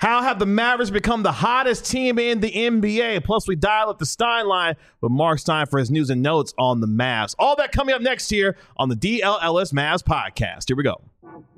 How have the Mavericks become the hottest team in the NBA? Plus, we dial up the Stein line with Mark Stein for his news and notes on the Mavs. All that coming up next here on the DLLS Mavs podcast. Here we go.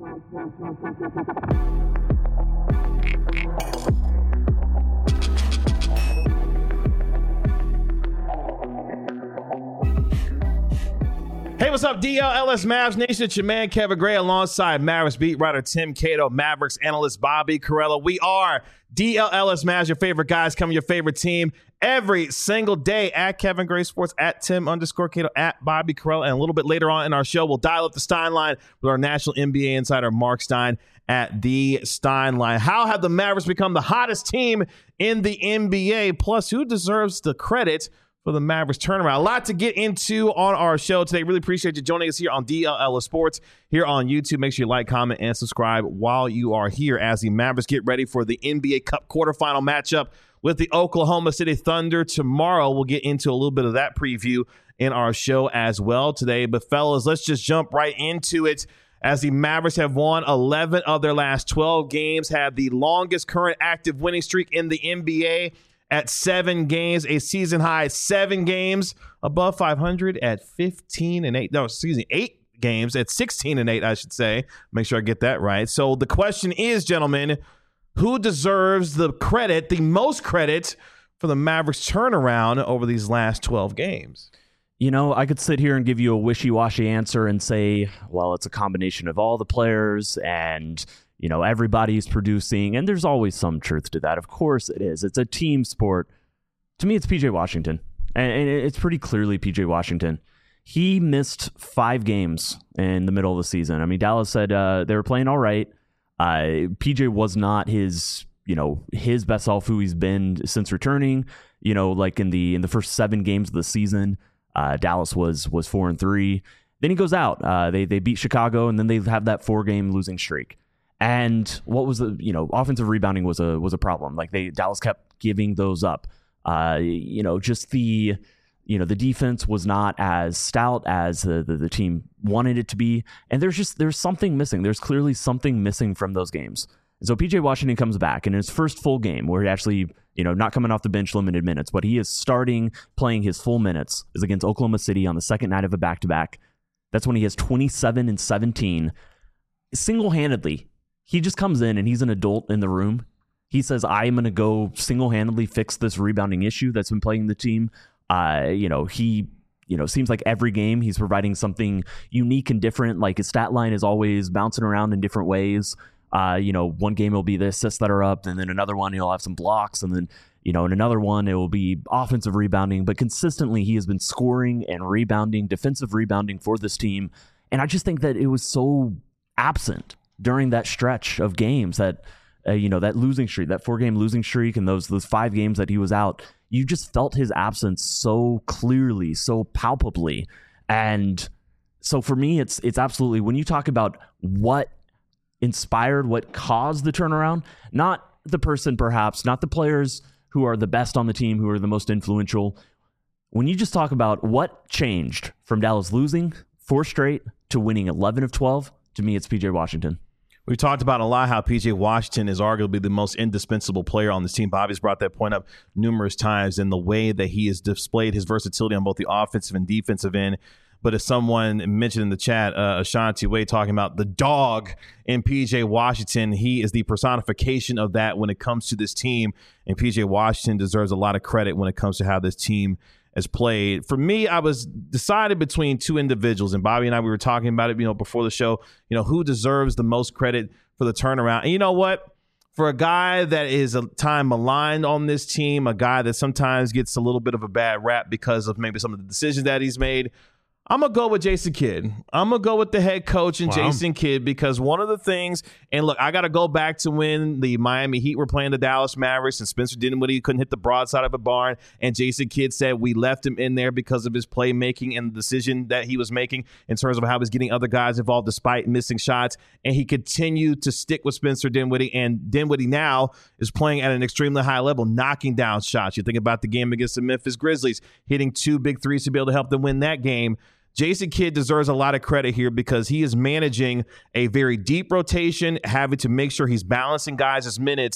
Hey, what's up, DLLS Mavs Nation? It's your man, Kevin Gray, alongside Mavericks beat writer Tim Cato, Mavericks analyst Bobby Carella. We are DLLS Mavs, your favorite guys, coming your favorite team every single day at Kevin Gray Sports, at Tim_Cato, at Bobby Carella. And a little bit later on in our show, we'll dial up the Stein line with our national NBA insider, Mark Stein, at the Stein line. How have the Mavericks become the hottest team in the NBA? Plus, who deserves the credit for the Mavericks turnaround? A lot to get into on our show today. Really appreciate you joining us here on DLLS Sports here on YouTube. Make sure you like, comment, and subscribe while you are here as the Mavericks get ready for the NBA Cup quarterfinal matchup with the Oklahoma City Thunder tomorrow. We'll get into a little bit of that preview in our show as well today. But fellas, let's just jump right into it as the Mavericks have won 11 of their last 12 games, have the longest current active winning streak in the NBA at 7 games, a season high 7 games above 500 at 15-8. No, excuse me, 8 games at 16-8, I should say. Make sure I get that right. So the question is, gentlemen, who deserves the credit, the most credit for the Mavericks turnaround over these last 12 games? You know, I could sit here and give you a wishy-washy answer and say, well, it's a combination of all the players and you know, everybody's producing, and there's always some truth to that. Of course it is. It's a team sport. To me, it's PJ Washington, and it's pretty clearly PJ Washington. He missed 5 games in the middle of the season. I mean, Dallas said they were playing all right. PJ was not his best self who he's been since returning. You know, like in the first 7 games of the season, Dallas was 4-3. Then he goes out. They beat Chicago, and then they have that 4-game losing streak. And what was offensive rebounding was a problem. Like Dallas kept giving those up. Just the defense was not as stout as the team wanted it to be. And there's something missing. There's clearly something missing from those games. And so PJ Washington comes back in his first full game where he actually, not coming off the bench, limited minutes, but he is starting playing his full minutes, is against Oklahoma City on the second night of a back-to-back. That's when he has 27 and 17 single-handedly. He just comes in and he's an adult in the room. He says, I'm going to go single-handedly fix this rebounding issue that's been plaguing the team. Seems like every game he's providing something unique and different. Like his stat line is always bouncing around in different ways. One game it'll be the assists that are up, and then another one he'll have some blocks, and then, in another one it will be offensive rebounding. But consistently he has been scoring and rebounding, defensive rebounding for this team. And I just think that it was so absent during that stretch of games that, that losing streak, that 4-game losing streak, and those 5 games that he was out, you just felt his absence so clearly, so palpably. And so for me, it's absolutely, when you talk about what inspired, what caused the turnaround, not the person perhaps, not the players who are the best on the team, who are the most influential. When you just talk about what changed from Dallas losing 4 straight to winning 11 of 12, to me, it's PJ Washington. We've talked about a lot how PJ Washington is arguably the most indispensable player on this team. Bobby's brought that point up numerous times in the way that he has displayed his versatility on both the offensive and defensive end. But as someone mentioned in the chat, Ashanti Wade talking about the dog in PJ Washington, he is the personification of that when it comes to this team. And PJ Washington deserves a lot of credit when it comes to how this team has played. For me, I was decided between 2 individuals, and Bobby and I, we were talking about it, before the show, who deserves the most credit for the turnaround. And you know what? For a guy that is a time maligned on this team, a guy that sometimes gets a little bit of a bad rap because of maybe some of the decisions that he's made, I'm going to go with Jason Kidd. I'm going to go with the head coach and Jason Kidd, because one of the things, and look, I got to go back to when the Miami Heat were playing the Dallas Mavericks and Spencer Dinwiddie couldn't hit the broadside of a barn, and Jason Kidd said we left him in there because of his playmaking and the decision that he was making in terms of how he was getting other guys involved despite missing shots, and he continued to stick with Spencer Dinwiddie, and Dinwiddie now is playing at an extremely high level, knocking down shots. You think about the game against the Memphis Grizzlies, hitting 2 big threes to be able to help them win that game. Jason Kidd deserves a lot of credit here because he is managing a very deep rotation, having to make sure he's balancing guys' minutes,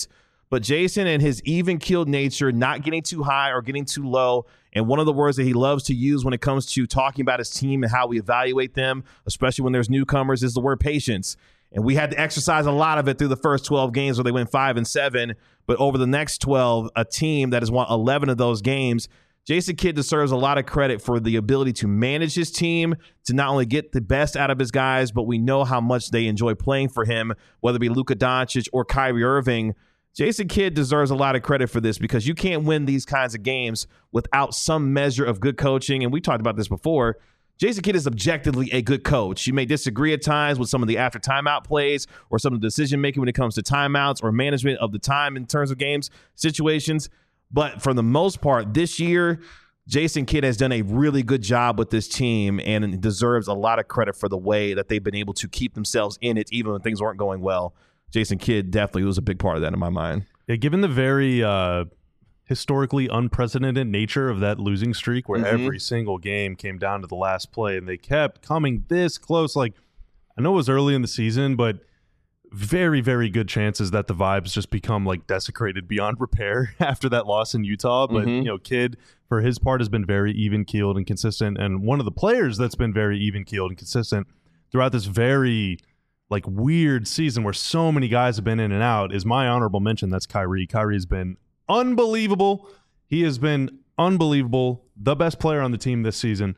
But Jason and his even-keeled nature, not getting too high or getting too low, and one of the words that he loves to use when it comes to talking about his team and how we evaluate them, especially when there's newcomers, is the word patience. And we had to exercise a lot of it through the first 12 games where they went 5-7. But over the next 12, a team that has won 11 of those games, Jason Kidd deserves a lot of credit for the ability to manage his team, to not only get the best out of his guys, but we know how much they enjoy playing for him, whether it be Luka Doncic or Kyrie Irving. Jason Kidd deserves a lot of credit for this because you can't win these kinds of games without some measure of good coaching. And we talked about this before. Jason Kidd is objectively a good coach. You may disagree at times with some of the after timeout plays or some of the decision-making when it comes to timeouts or management of the time in terms of games situations. But for the most part, this year, Jason Kidd has done a really good job with this team and deserves a lot of credit for the way that they've been able to keep themselves in it even when things weren't going well. Jason Kidd definitely was a big part of that in my mind. Yeah, given the very historically unprecedented nature of that losing streak where every single game came down to the last play and they kept coming this close. Like, I know it was early in the season, but very, very good chances that the vibes just become like desecrated beyond repair after that loss in Utah. But, you know, Kidd, for his part, has been very even-keeled and consistent. And one of the players that's been very even-keeled and consistent throughout this very like weird season where so many guys have been in and out is my honorable mention. That's Kyrie. Kyrie has been unbelievable. He has been unbelievable. The best player on the team this season.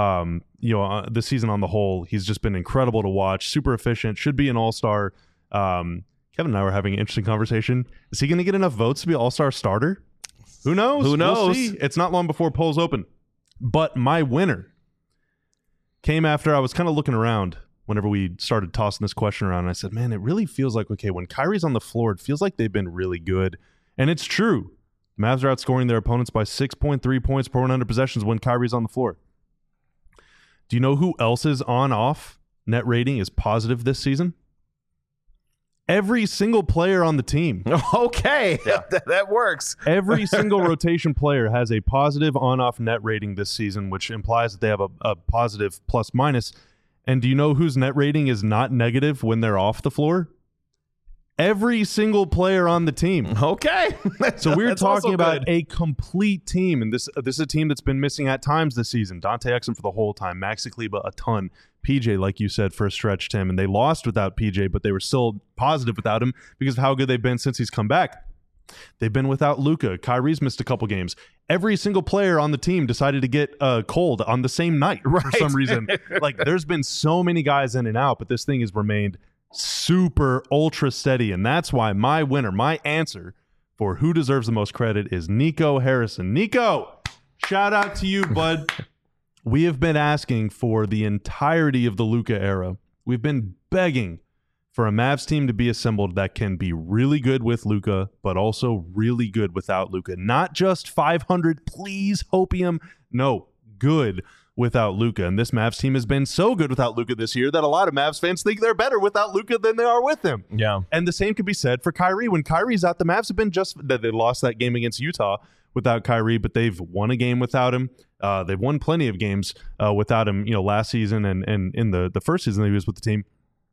This season on the whole, he's just been incredible to watch. Super efficient. Should be an all-star. Kevin and I were having an interesting conversation. Is he going to get enough votes to be all-star starter? Who knows? Who knows? We'll see. It's not long before polls open. But my winner came after I was kind of looking around whenever we started tossing this question around. And I said, man, it really feels like, okay, when Kyrie's on the floor, it feels like they've been really good. And it's true. Mavs are outscoring their opponents by 6.3 points per 100 possessions when Kyrie's on the floor. Do you know who else's on-off net rating is positive this season? Every single player on the team. Okay, yeah. That works. Every single rotation player has a positive on-off net rating this season, which implies that they have a positive plus-minus. And do you know whose net rating is not negative when they're off the floor? Every single player on the team. Okay. So we're talking about a complete team, and this is a team that's been missing at times this season. Dante Exum for the whole time, Maxi Kleber a ton, PJ, like you said, for a stretch, Tim, and they lost without PJ, but they were still positive without him because of how good they've been since he's come back. They've been without Luka. Kyrie's missed a couple games. Every single player on the team decided to get cold on the same night for some reason. Like, there's been so many guys in and out, but this thing has remained super ultra steady, and that's why my winner, my answer for who deserves the most credit is Nico Harrison. Nico, shout out to you, bud. We have been asking for the entirety of the Luka era. We've been begging for a Mavs team to be assembled that can be really good with Luka, but also really good without Luka. Not just 500, please, hopium. No, good without Luka. And this Mavs team has been so good without Luka this year that a lot of Mavs fans think they're better without Luka than they are with him. Yeah. And the same could be said for Kyrie. When Kyrie's out, the Mavs have been just that they lost that game against Utah without Kyrie, but they've won a game without him. They've won plenty of games without him, last season and in the first season that he was with the team.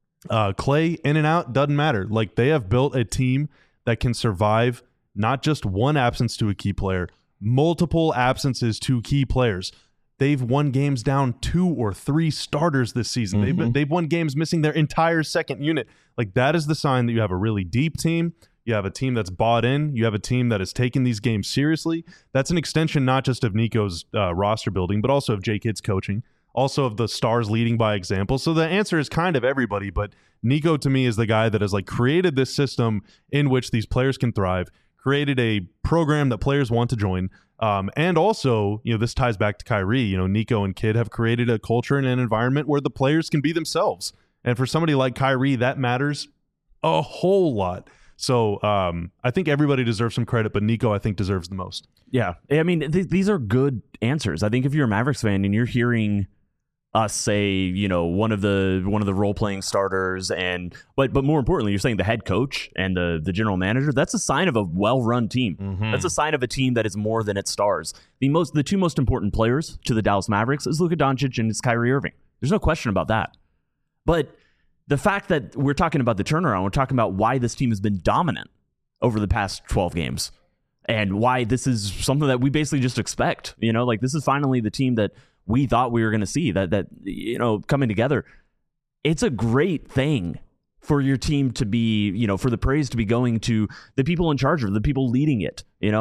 Clay in and out doesn't matter. Like, they have built a team that can survive not just one absence to a key player, multiple absences to key players. They've won games down 2 or 3 starters this season. Mm-hmm. They've won games missing their entire second unit. Like, that is the sign that you have a really deep team. You have a team that's bought in. You have a team that is taking these games seriously. That's an extension not just of Nico's roster building, but also of J. Kidd's coaching, also of the stars leading by example. So the answer is kind of everybody, but Nico to me is the guy that has created this system in which these players can thrive, created a program that players want to join. And also, this ties back to Kyrie. Nico and Kidd have created a culture and an environment where the players can be themselves. And for somebody like Kyrie, that matters a whole lot. So I think everybody deserves some credit, but Nico, I think, deserves the most. Yeah. I mean, these are good answers. I think if you're a Mavericks fan and you're hearing us say, one of the role-playing starters, but more importantly, you're saying the head coach and the general manager, that's a sign of a well-run team. Mm-hmm. That's a sign of a team that is more than its stars. The two most important players to the Dallas Mavericks is Luka Doncic and it's Kyrie Irving. There's no question about that. But the fact that we're talking about the turnaround, we're talking about why this team has been dominant. over the past 12 games, and why this is something that we basically just expect. Like this is finally the team that we thought we were going to see that coming together. It's a great thing for your team to be, for the praise to be going to the people in charge of the people leading it.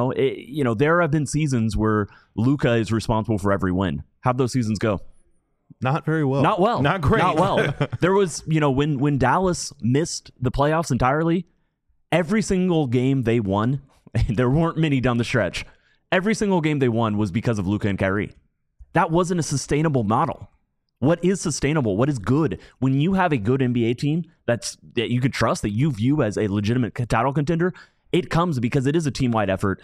There have been seasons where Luka is responsible for every win. How'd those seasons go? Not very well. Not well. Not great. Not well. There was, when Dallas missed the playoffs entirely, every single game they won, there weren't many down the stretch. Every single game they won was because of Luka and Kyrie. That wasn't a sustainable model. What is sustainable? What is good? When you have a good NBA team that you can trust, that you view as a legitimate title contender, it comes because it is a team-wide effort,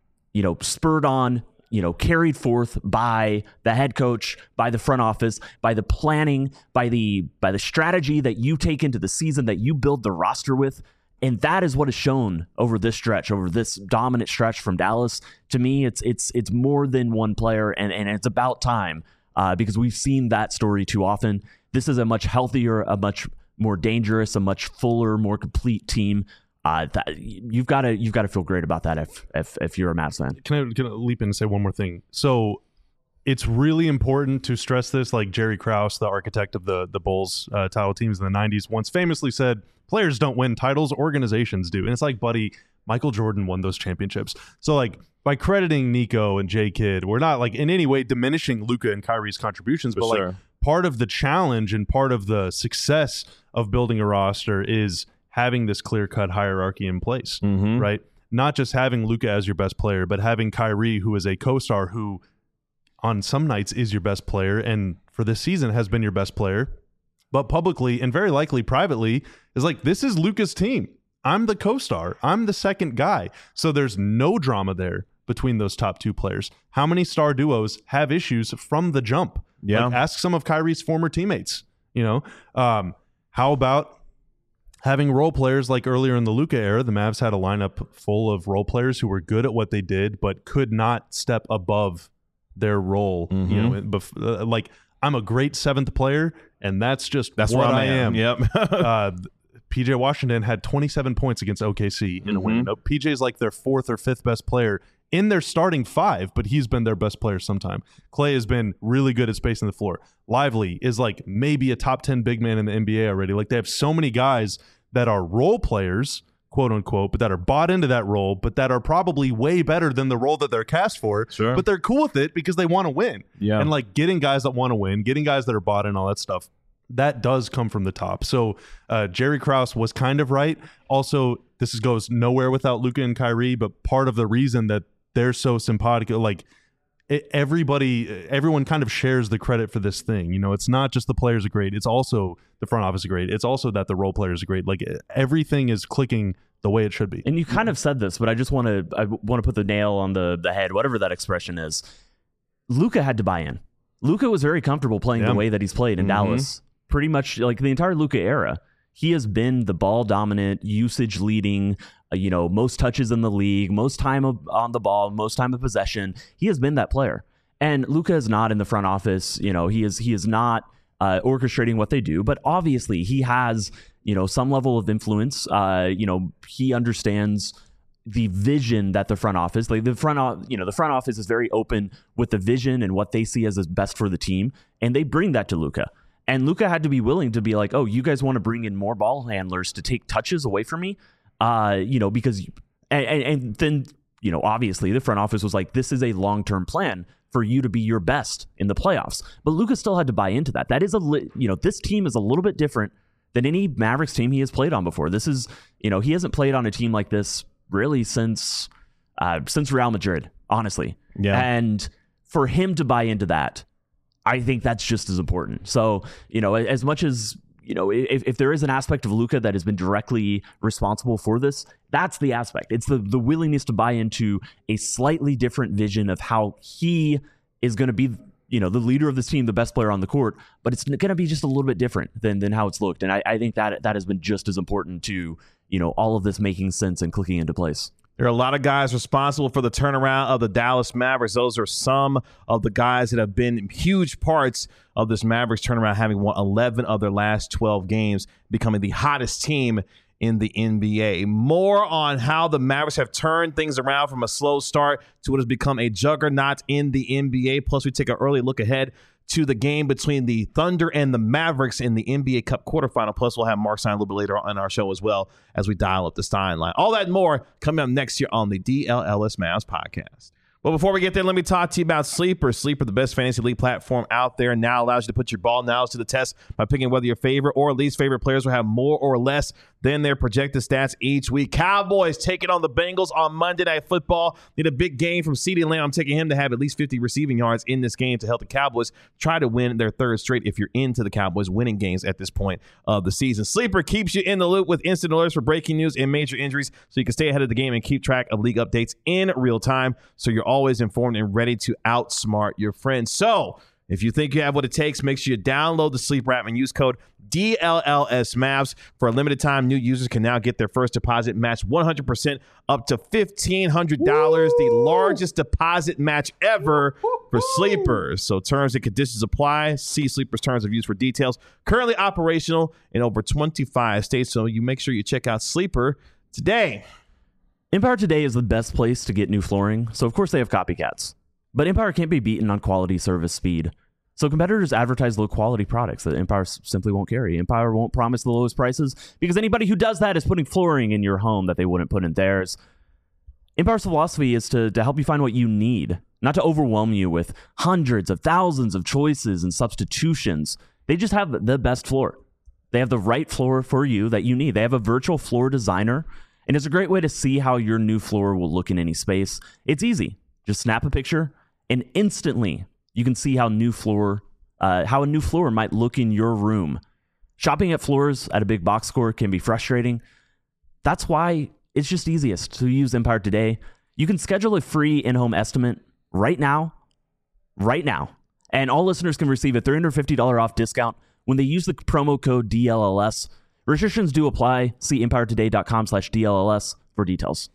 spurred on, carried forth by the head coach, by the front office, by the planning, by the strategy that you take into the season, that you build the roster with. And that is what is shown over this stretch, over this dominant stretch from Dallas. To me, it's more than one player, and it's about time. Because we've seen that story too often. This is a much healthier, a much more dangerous, a much fuller, more complete team. You've got to feel great about that if you're a Mavs fan. Can I leap in and say one more thing? So it's really important to stress this. Like Jerry Krause, the architect of the Bulls title teams in the 90s, once famously said, "Players don't win titles, organizations do." And it's like, buddy, Michael Jordan won those championships. So like, by crediting Nico and J Kidd, we're not like in any way diminishing Luka and Kyrie's contributions, but like part of the challenge and part of the success of building a roster is having this clear-cut hierarchy in place, right? Not just having Luka as your best player, but having Kyrie, who is a co-star, who on some nights is your best player, and for this season has been your best player, but publicly and very likely privately is like, this is Luka's team. I'm the co-star. I'm the second guy. So there's no drama there between those top two players. How many star duos have issues from the jump? Yeah. Like, ask some of Kyrie's former teammates. How about having role players like earlier in the Luka era? The Mavs had a lineup full of role players who were good at what they did, but could not step above their role. Like, I'm a great seventh player, and that's what I am. Yep. PJ Washington had 27 points against OKC in a win. PJ's like their fourth or fifth best player in their starting five, but he's been their best player sometime. Clay has been really good at spacing the floor. Lively is like maybe a top 10 big man in the NBA already. Like, they have so many guys that are role players, quote unquote, but that are bought into that role, but that are probably way better than the role that they're cast for. Sure. But they're cool with it because they want to win. Yeah. And like getting guys that want to win, getting guys that are bought in, all that stuff, that does come from the top. So Jerry Krause was kind of right. Also, this goes nowhere without Luka and Kyrie, but part of the reason that they're so simpatico, like everyone kind of shares the credit for this thing. It's not just the players are great. It's also the front office are great. It's also that the role players are great. Like, everything is clicking the way it should be. And you kind of said this, but I want to put the nail on the head, whatever that expression is. Luka had to buy in. Luka was very comfortable playing the way that he's played in Dallas. Pretty much like the entire Luka era. He has been the ball dominant, usage leading, most touches in the league, most time on the ball, most time of possession. He has been that player. And Luka is not in the front office. He is not orchestrating what they do, but obviously he has, some level of influence. He understands the vision that the front office, like the front office is very open with the vision and what they see as is best for the team. And they bring that to Luka. And Luka had to be willing to be like, oh, you guys want to bring in more ball handlers to take touches away from me? Because then, obviously the front office was like, this is a long-term plan for you to be your best in the playoffs. But Luka still had to buy into that. That is this team is a little bit different than any Mavericks team he has played on before. This is, he hasn't played on a team like this really since Real Madrid, honestly. Yeah. And for him to buy into that, I think that's just as important. So, as much as, if there is an aspect of Luka that has been directly responsible for this, that's the aspect. It's the willingness to buy into a slightly different vision of how he is going to be, the leader of this team, the best player on the court, but it's going to be just a little bit different than how it's looked. And I think that has been just as important to, all of this making sense and clicking into place. There are a lot of guys responsible for the turnaround of the Dallas Mavericks. Those are some of the guys that have been huge parts of this Mavericks turnaround, having won 11 of their last 12 games, becoming the hottest team in the NBA. More on how the Mavericks have turned things around from a slow start to what has become a juggernaut in the NBA. Plus, we take an early look ahead to the game between the Thunder and the Mavericks in the NBA Cup quarterfinal. Plus, we'll have Mark Stein a little bit later on our show as well as we dial up the Stein line. All that and more coming up next year on the DLLS Mavs podcast. Well, before we get there, let me talk to you about Sleeper. Sleeper, the best fantasy league platform out there, now allows you to put your ball nows to the test by picking whether your favorite or least favorite players will have more or less than their projected stats each week. Cowboys taking on the Bengals on Monday Night Football. Need a big game from CeeDee Lamb. I'm taking him to have at least 50 receiving yards in this game to help the Cowboys try to win their third straight if you're into the Cowboys winning games at this point of the season. Sleeper keeps you in the loop with instant alerts for breaking news and major injuries so you can stay ahead of the game and keep track of league updates in real time so you're always informed and ready to outsmart your friends. So if you think you have what it takes, make sure you download the Sleeper app and use code DLLSMavs. For a limited time, new users can now get their first deposit matched 100% up to $1,500, the largest deposit match ever for Sleepers. So terms and conditions apply. See Sleeper's terms of use for details. Currently operational in over 25 states, so you make sure you check out Sleeper today. Empire Today is the best place to get new flooring, so of course they have copycats. But Empire can't be beaten on quality, service, speed. So competitors advertise low-quality products that Empire simply won't carry. Empire won't promise the lowest prices because anybody who does that is putting flooring in your home that they wouldn't put in theirs. Empire's philosophy is to help you find what you need, not to overwhelm you with hundreds of thousands of choices and substitutions. They just have the best floor. They have the right floor for you that you need. They have a virtual floor designer, and it's a great way to see how your new floor will look in any space. It's easy. Just snap a picture, and instantly you can see how a new floor might look in your room. Shopping at floors at a big box store can be frustrating. That's why it's just easiest to use Empire Today. You can schedule a free in-home estimate right now, and all listeners can receive a $350 off discount when they use the promo code DLLS. Restrictions do apply. See EmpireToday.com/DLLS for details.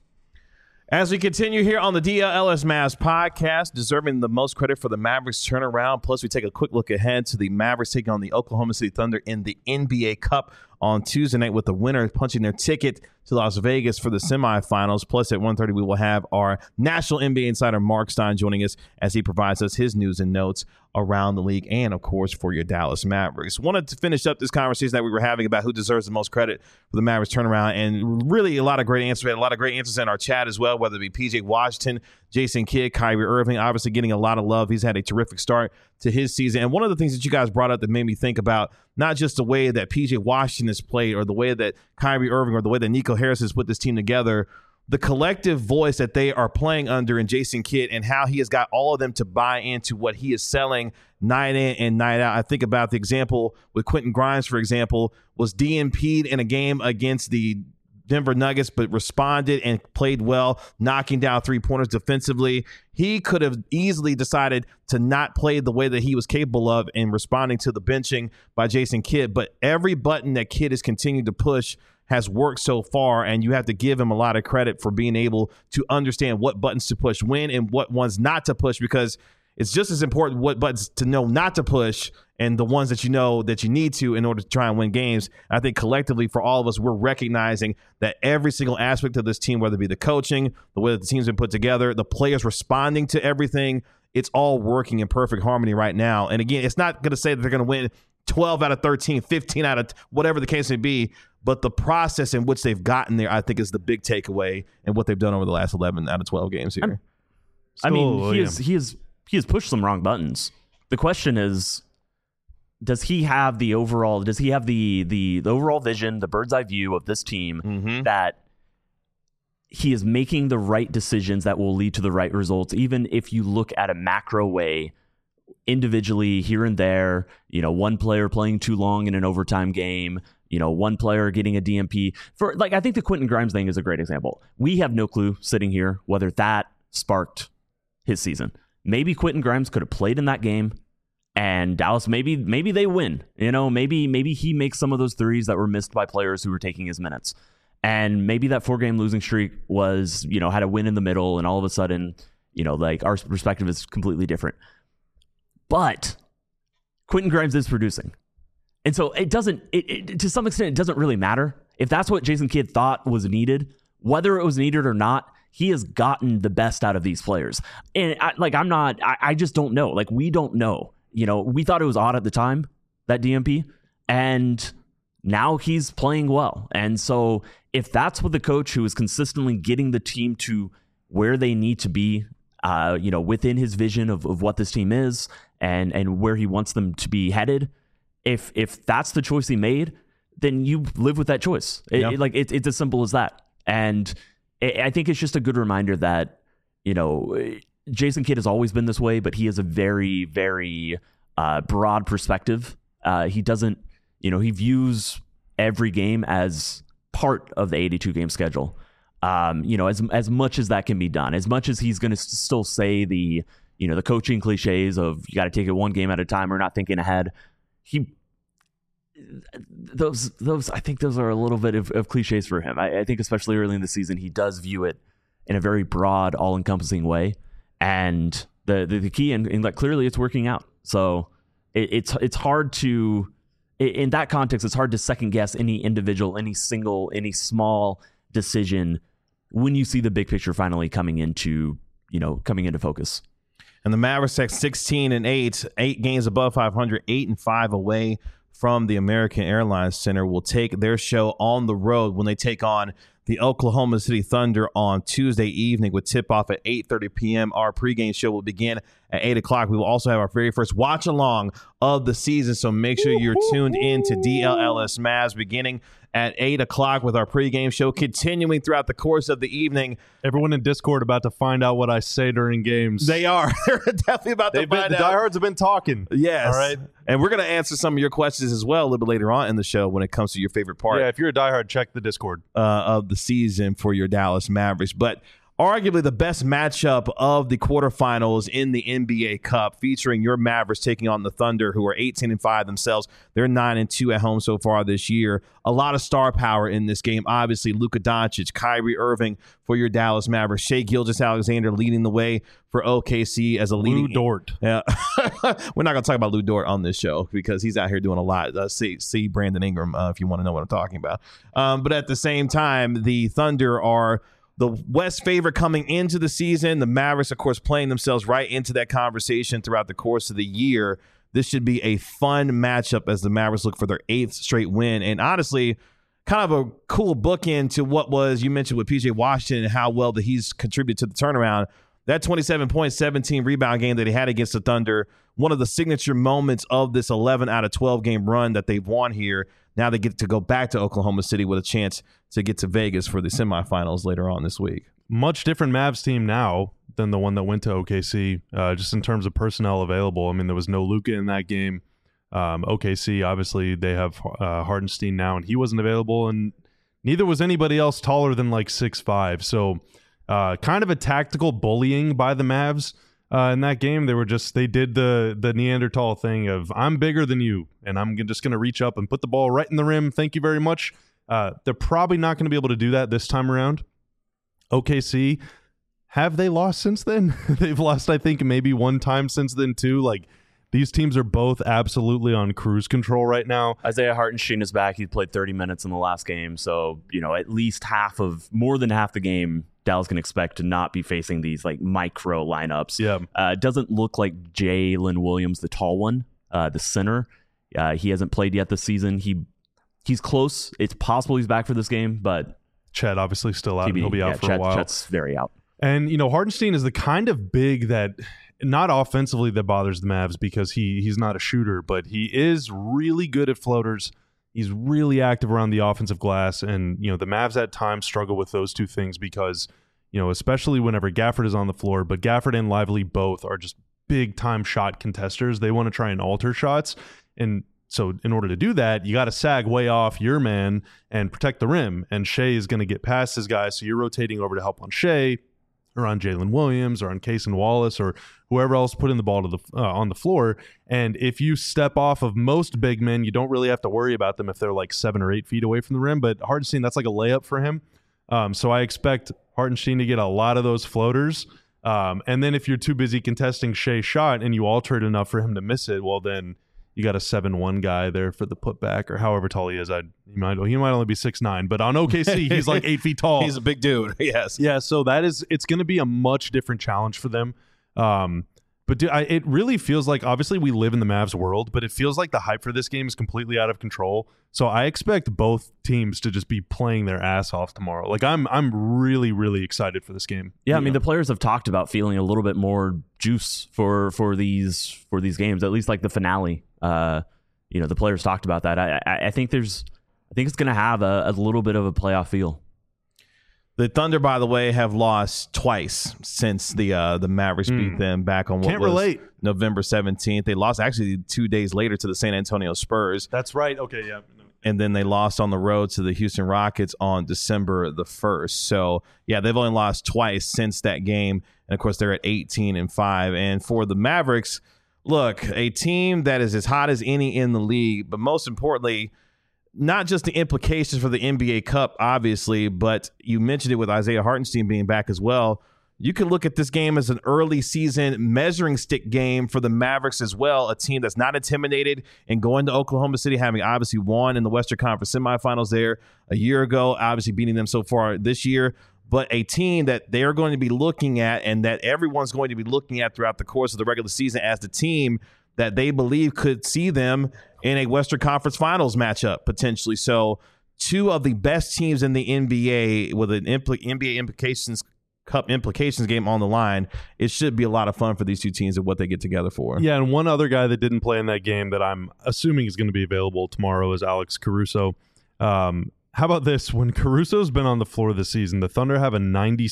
As we continue here on the DLLS Mavs podcast, deserving the most credit for the Mavericks turnaround. Plus, we take a quick look ahead to the Mavericks taking on the Oklahoma City Thunder in the NBA Cup on Tuesday night, with the winner punching their ticket to Las Vegas for the semifinals. Plus, at 1:30, we will have our national NBA insider Mark Stein joining us as he provides us his news and notes around the league and, of course, for your Dallas Mavericks. Wanted to finish up this conversation that we were having about who deserves the most credit for the Mavericks turnaround, and really a lot of great answers. We had a lot of great answers in our chat as well, whether it be PJ Washington, Jason Kidd, Kyrie Irving, obviously getting a lot of love. He's had a terrific start to his season. And one of the things that you guys brought up that made me think about not just the way that PJ Washington has played or the way that Kyrie Irving or the way that Nico Harris has put this team together, the collective voice that they are playing under in Jason Kidd and how he has got all of them to buy into what he is selling night in and night out. I think about the example with Quentin Grimes, for example, was DNP'd in a game against the Denver Nuggets, but responded and played well, knocking down three-pointers defensively. He could have easily decided to not play the way that he was capable of in responding to the benching by Jason Kidd, but every button that Kidd has continued to push has worked so far, and you have to give him a lot of credit for being able to understand what buttons to push when and what ones not to push, because it's just as important what buttons to know not to push and the ones that you know that you need to in order to try and win games. I think collectively for all of us, we're recognizing that every single aspect of this team, whether it be the coaching, the way that the team's been put together, the players responding to everything, it's all working in perfect harmony right now. And again, it's not going to say that they're going to win 12 out of 13, 15 out of whatever the case may be, but the process in which they've gotten there, I think, is the big takeaway and what they've done over the last 11 out of 12 games here. I mean, he has pushed some wrong buttons. The question is, does he have the overall overall vision, the bird's eye view of this team, that he is making the right decisions that will lead to the right results, even if you look at a macro way, individually here and there, one player playing too long in an overtime game, one player getting a DMP. I think the Quentin Grimes thing is a great example. We have no clue sitting here whether that sparked his season. Maybe Quentin Grimes could have played in that game, and Dallas, maybe they win. Maybe he makes some of those threes that were missed by players who were taking his minutes. And maybe that 4-game losing streak was, had a win in the middle, and all of a sudden, our perspective is completely different. But Quentin Grimes is producing. And so to some extent, it doesn't really matter. if that's what Jason Kidd thought was needed, whether it was needed or not, he has gotten the best out of these players. And I just don't know. Like, we don't know. We thought it was odd at the time, that DNP, and now he's playing well. And so if that's what the coach who is consistently getting the team to where they need to be, within his vision of what this team is and where he wants them to be headed, if that's the choice he made, then you live with that choice. It's as simple as that. And I think it's just a good reminder that, Jason Kidd has always been this way, but he has a very, very broad perspective. He doesn't, he views every game as part of the 82 game schedule. As much as that can be done, as much as he's going to still say the coaching cliches of you got to take it one game at a time or not thinking ahead. I think those are a little bit of cliches for him. I think especially early in the season, he does view it in a very broad, all-encompassing way. And the key, and like clearly it's working out. So it's hard to, in that context, it's hard to second guess any individual, any small decision when you see the big picture finally coming into focus. And the Mavericks at 16-8, 8 games above 500, 8-5 away from the American Airlines Center, will take their show on the road when they take on the Oklahoma City Thunder on Tuesday evening with tip-off at 8:30 p.m. Our pregame show will begin at 8 o'clock. We will also have our very first watch-along of the season, so make sure you're tuned in to DLLS Mavs beginning at 8 o'clock with our pregame show, continuing throughout the course of the evening. Everyone in Discord about to find out what I say during games. They are. They're definitely about to find out. The diehards have been talking. Yes. All right. And we're going to answer some of your questions as well a little bit later on in the show when it comes to your favorite part. Yeah, if you're a diehard, check the Discord. Of the season for your Dallas Mavericks. But arguably the best matchup of the quarterfinals in the NBA Cup, featuring your Mavericks taking on the Thunder, who are 18-5 themselves. They're 9-2 at home so far this year. A lot of star power in this game. Obviously, Luka Doncic, Kyrie Irving for your Dallas Mavericks. Shai Gilgeous-Alexander leading the way for OKC as a leading. Lou Dort. Yeah. We're not going to talk about Lou Dort on this show because he's out here doing a lot. See Brandon Ingram if you want to know what I'm talking about. But at the same time, the Thunder are the West favorite coming into the season. The Mavericks, of course, playing themselves right into that conversation throughout the course of the year. This should be a fun matchup as the Mavericks look for their 8th straight win. And honestly, kind of a cool bookend to what was, you mentioned with PJ Washington and how well that he's contributed to the turnaround. That 27-point, 17-rebound game that he had against the Thunder, one of the signature moments of this 11 out of 12 game run that they've won here. Now they get to go back to Oklahoma City with a chance to get to Vegas for the semifinals later on this week. Much different Mavs team now than the one that went to OKC, just in terms of personnel available. I mean, there was no Luka in that game. OKC, obviously, they have Hardenstein now, and he wasn't available, and neither was anybody else taller than like 6'5". So kind of a tactical bullying by the Mavs in that game. They did the Neanderthal thing of, I'm bigger than you, and I'm just going to reach up and put the ball right in the rim. Thank you very much. They're probably not going to be able to do that this time around. OKC, have they lost since then? They've lost, I think, maybe one time since then, too. Like, these teams are both absolutely on cruise control right now. Isaiah Hartenstein is back. He played 30 minutes in the last game. So, at least more than half the game, Dallas can expect to not be facing these like micro lineups. Yeah. It doesn't look like Jalen Williams, the tall one, the center. He hasn't played yet this season. He's close. It's possible he's back for this game, but Chet obviously still out. He'll be out for a while. Chet's very out. And, Hardenstein is the kind of big that, not offensively, that bothers the Mavs because he's not a shooter, but he is really good at floaters. He's really active around the offensive glass. And, the Mavs at times struggle with those two things because, especially whenever Gafford is on the floor, but Gafford and Lively both are just big time shot contesters. They want to try and alter shots. And so in order to do that, you got to sag way off your man and protect the rim. And Shai is going to get past his guy. So you're rotating over to help on Shai or on Jalen Williams or on Cason Wallace or whoever else putting the ball to on the floor. And if you step off of most big men, you don't really have to worry about them if they're like 7 or 8 feet away from the rim. But Hardenstein, that's like a layup for him. So I expect Hartenstein to get a lot of those floaters. And then if you're too busy contesting Shai's shot and you alter it enough for him to miss it, well, then you got a 7'1" guy there for the putback, or however tall he is. He might only be 6'9", but on OKC he's like 8 feet tall. He's a big dude. Yes. Yeah. So it's going to be a much different challenge for them. But it really feels like, obviously we live in the Mavs world, but it feels like the hype for this game is completely out of control. So I expect both teams to just be playing their ass off tomorrow. Like I'm really, really excited for this game. Yeah, I mean, the players have talked about feeling a little bit more juice for these games, at least like the finale. The players talked about that. I think it's going to have a little bit of a playoff feel. The Thunder, by the way, have lost twice since the Mavericks beat them back on November 17th. They lost actually 2 days later to the San Antonio Spurs. That's right. Okay, yeah. And then they lost on the road to the Houston Rockets on December the 1st. So, yeah, they've only lost twice since that game. And, of course, they're at 18-5. And for the Mavericks, look, a team that is as hot as any in the league, but most importantly, not just the implications for the NBA Cup, obviously, but you mentioned it with Isaiah Hartenstein being back as well. You can look at this game as an early season measuring stick game for the Mavericks as well, a team that's not intimidated and going to Oklahoma City, having obviously won in the Western Conference semifinals there a year ago, obviously beating them so far this year, but a team that they're going to be looking at and that everyone's going to be looking at throughout the course of the regular season as the team that they believe could see them in a Western Conference Finals matchup potentially. So two of the best teams in the NBA with an NBA Cup implications game on the line. It should be a lot of fun for these two teams and what they get together for. Yeah, and one other guy that didn't play in that game that I'm assuming is going to be available tomorrow is Alex Caruso. How about this? When Caruso's been on the floor this season, the Thunder have a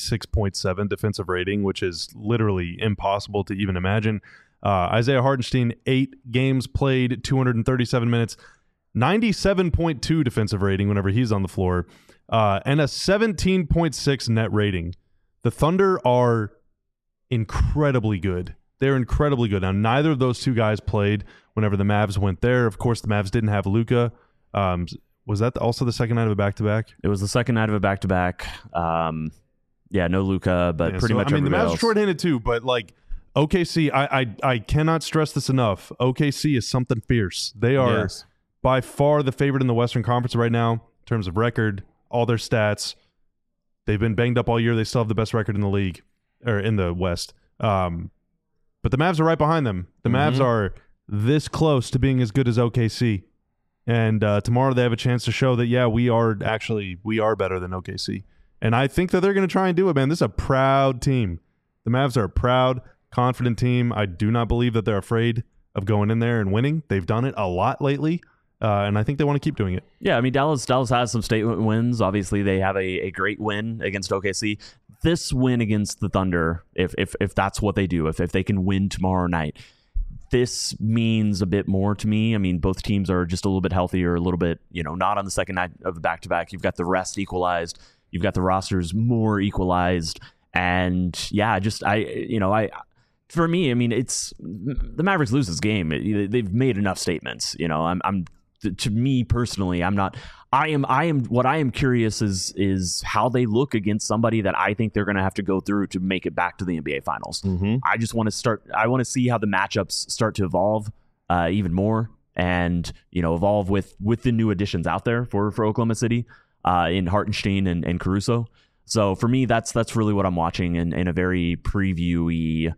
96.7 defensive rating, which is literally impossible to even imagine. Isaiah Hartenstein, 8 games played, 237 minutes, 97.2 defensive rating whenever he's on the floor, and a 17.6 net rating. The Thunder are incredibly good. They're incredibly good. Now, neither of those two guys played whenever the Mavs went there. Of course, the Mavs didn't have Luka. Was that also the second night of a back-to-back? It was the second night of a back-to-back. No Luka, but pretty much everybody else. The Mavs are short-handed too, but like, OKC, I cannot stress this enough. OKC is something fierce. They are by far the favorite in the Western Conference right now in terms of record, all their stats. They've been banged up all year. They still have the best record in the league, or in the West. But the Mavs are right behind them. The Mavs are this close to being as good as OKC. And tomorrow they have a chance to show that, yeah, we are better than OKC. And I think that they're going to try and do it, man. This is a proud team. The Mavs are a proud, confident team. I do not believe that they're afraid of going in there and winning. They've done it a lot lately, and I think they want to keep doing it. Yeah, I mean, Dallas has some statement wins. Obviously, they have a great win against OKC. This win against the Thunder, if that's what they do, if they can win tomorrow night, this means a bit more to me. I mean, both teams are just a little bit healthier, a little bit, not on the second night of the back-to-back. You've got the rest equalized. You've got the rosters more equalized. And yeah, for me, I mean, it's the Mavericks lose this game. They've made enough statements. To me personally, I am what I am curious is how they look against somebody that I think they're going to have to go through to make it back to the NBA Finals. I just want to see how the matchups start to evolve even more, and evolve with the new additions out there for Oklahoma City in Hartenstein and Caruso. So for me, that's really what I'm watching in a very preview-y.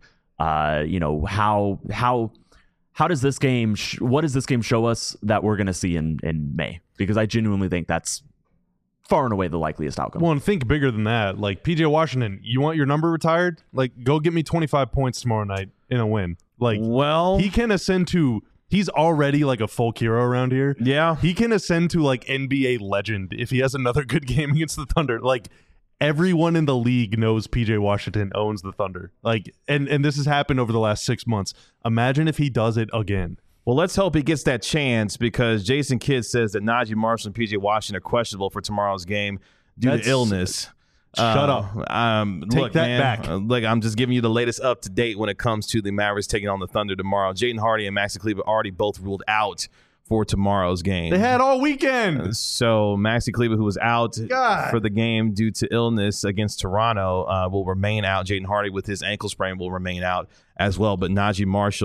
How does this game? What does this game show us that we're going to see in May? Because I genuinely think that's far and away the likeliest outcome. Well, and think bigger than that. Like PJ Washington, you want your number retired? Like, go get me 25 points tomorrow night in a win. Like, well, he can ascend to. He's already like a folk hero around here. Yeah, he can ascend to like NBA legend if he has another good game against the Thunder. Like, everyone in the league knows PJ Washington owns the Thunder. Like, and this has happened over the last 6 months. Imagine if he does it again. Well, let's hope he gets that chance, because Jason Kidd says that Najee Marshall and PJ Washington are questionable for tomorrow's game due to illness. Shut up. Take that back. Look, I'm just giving you the latest up to date when it comes to the Mavericks taking on the Thunder tomorrow. Jaden Hardy and Maxi Kleber already both ruled out for tomorrow's game. They had all weekend. So Maxi Kleber, who was out for the game due to illness against Toronto, will remain out. Jaden Hardy with his ankle sprain will remain out as well. But Najee Marshall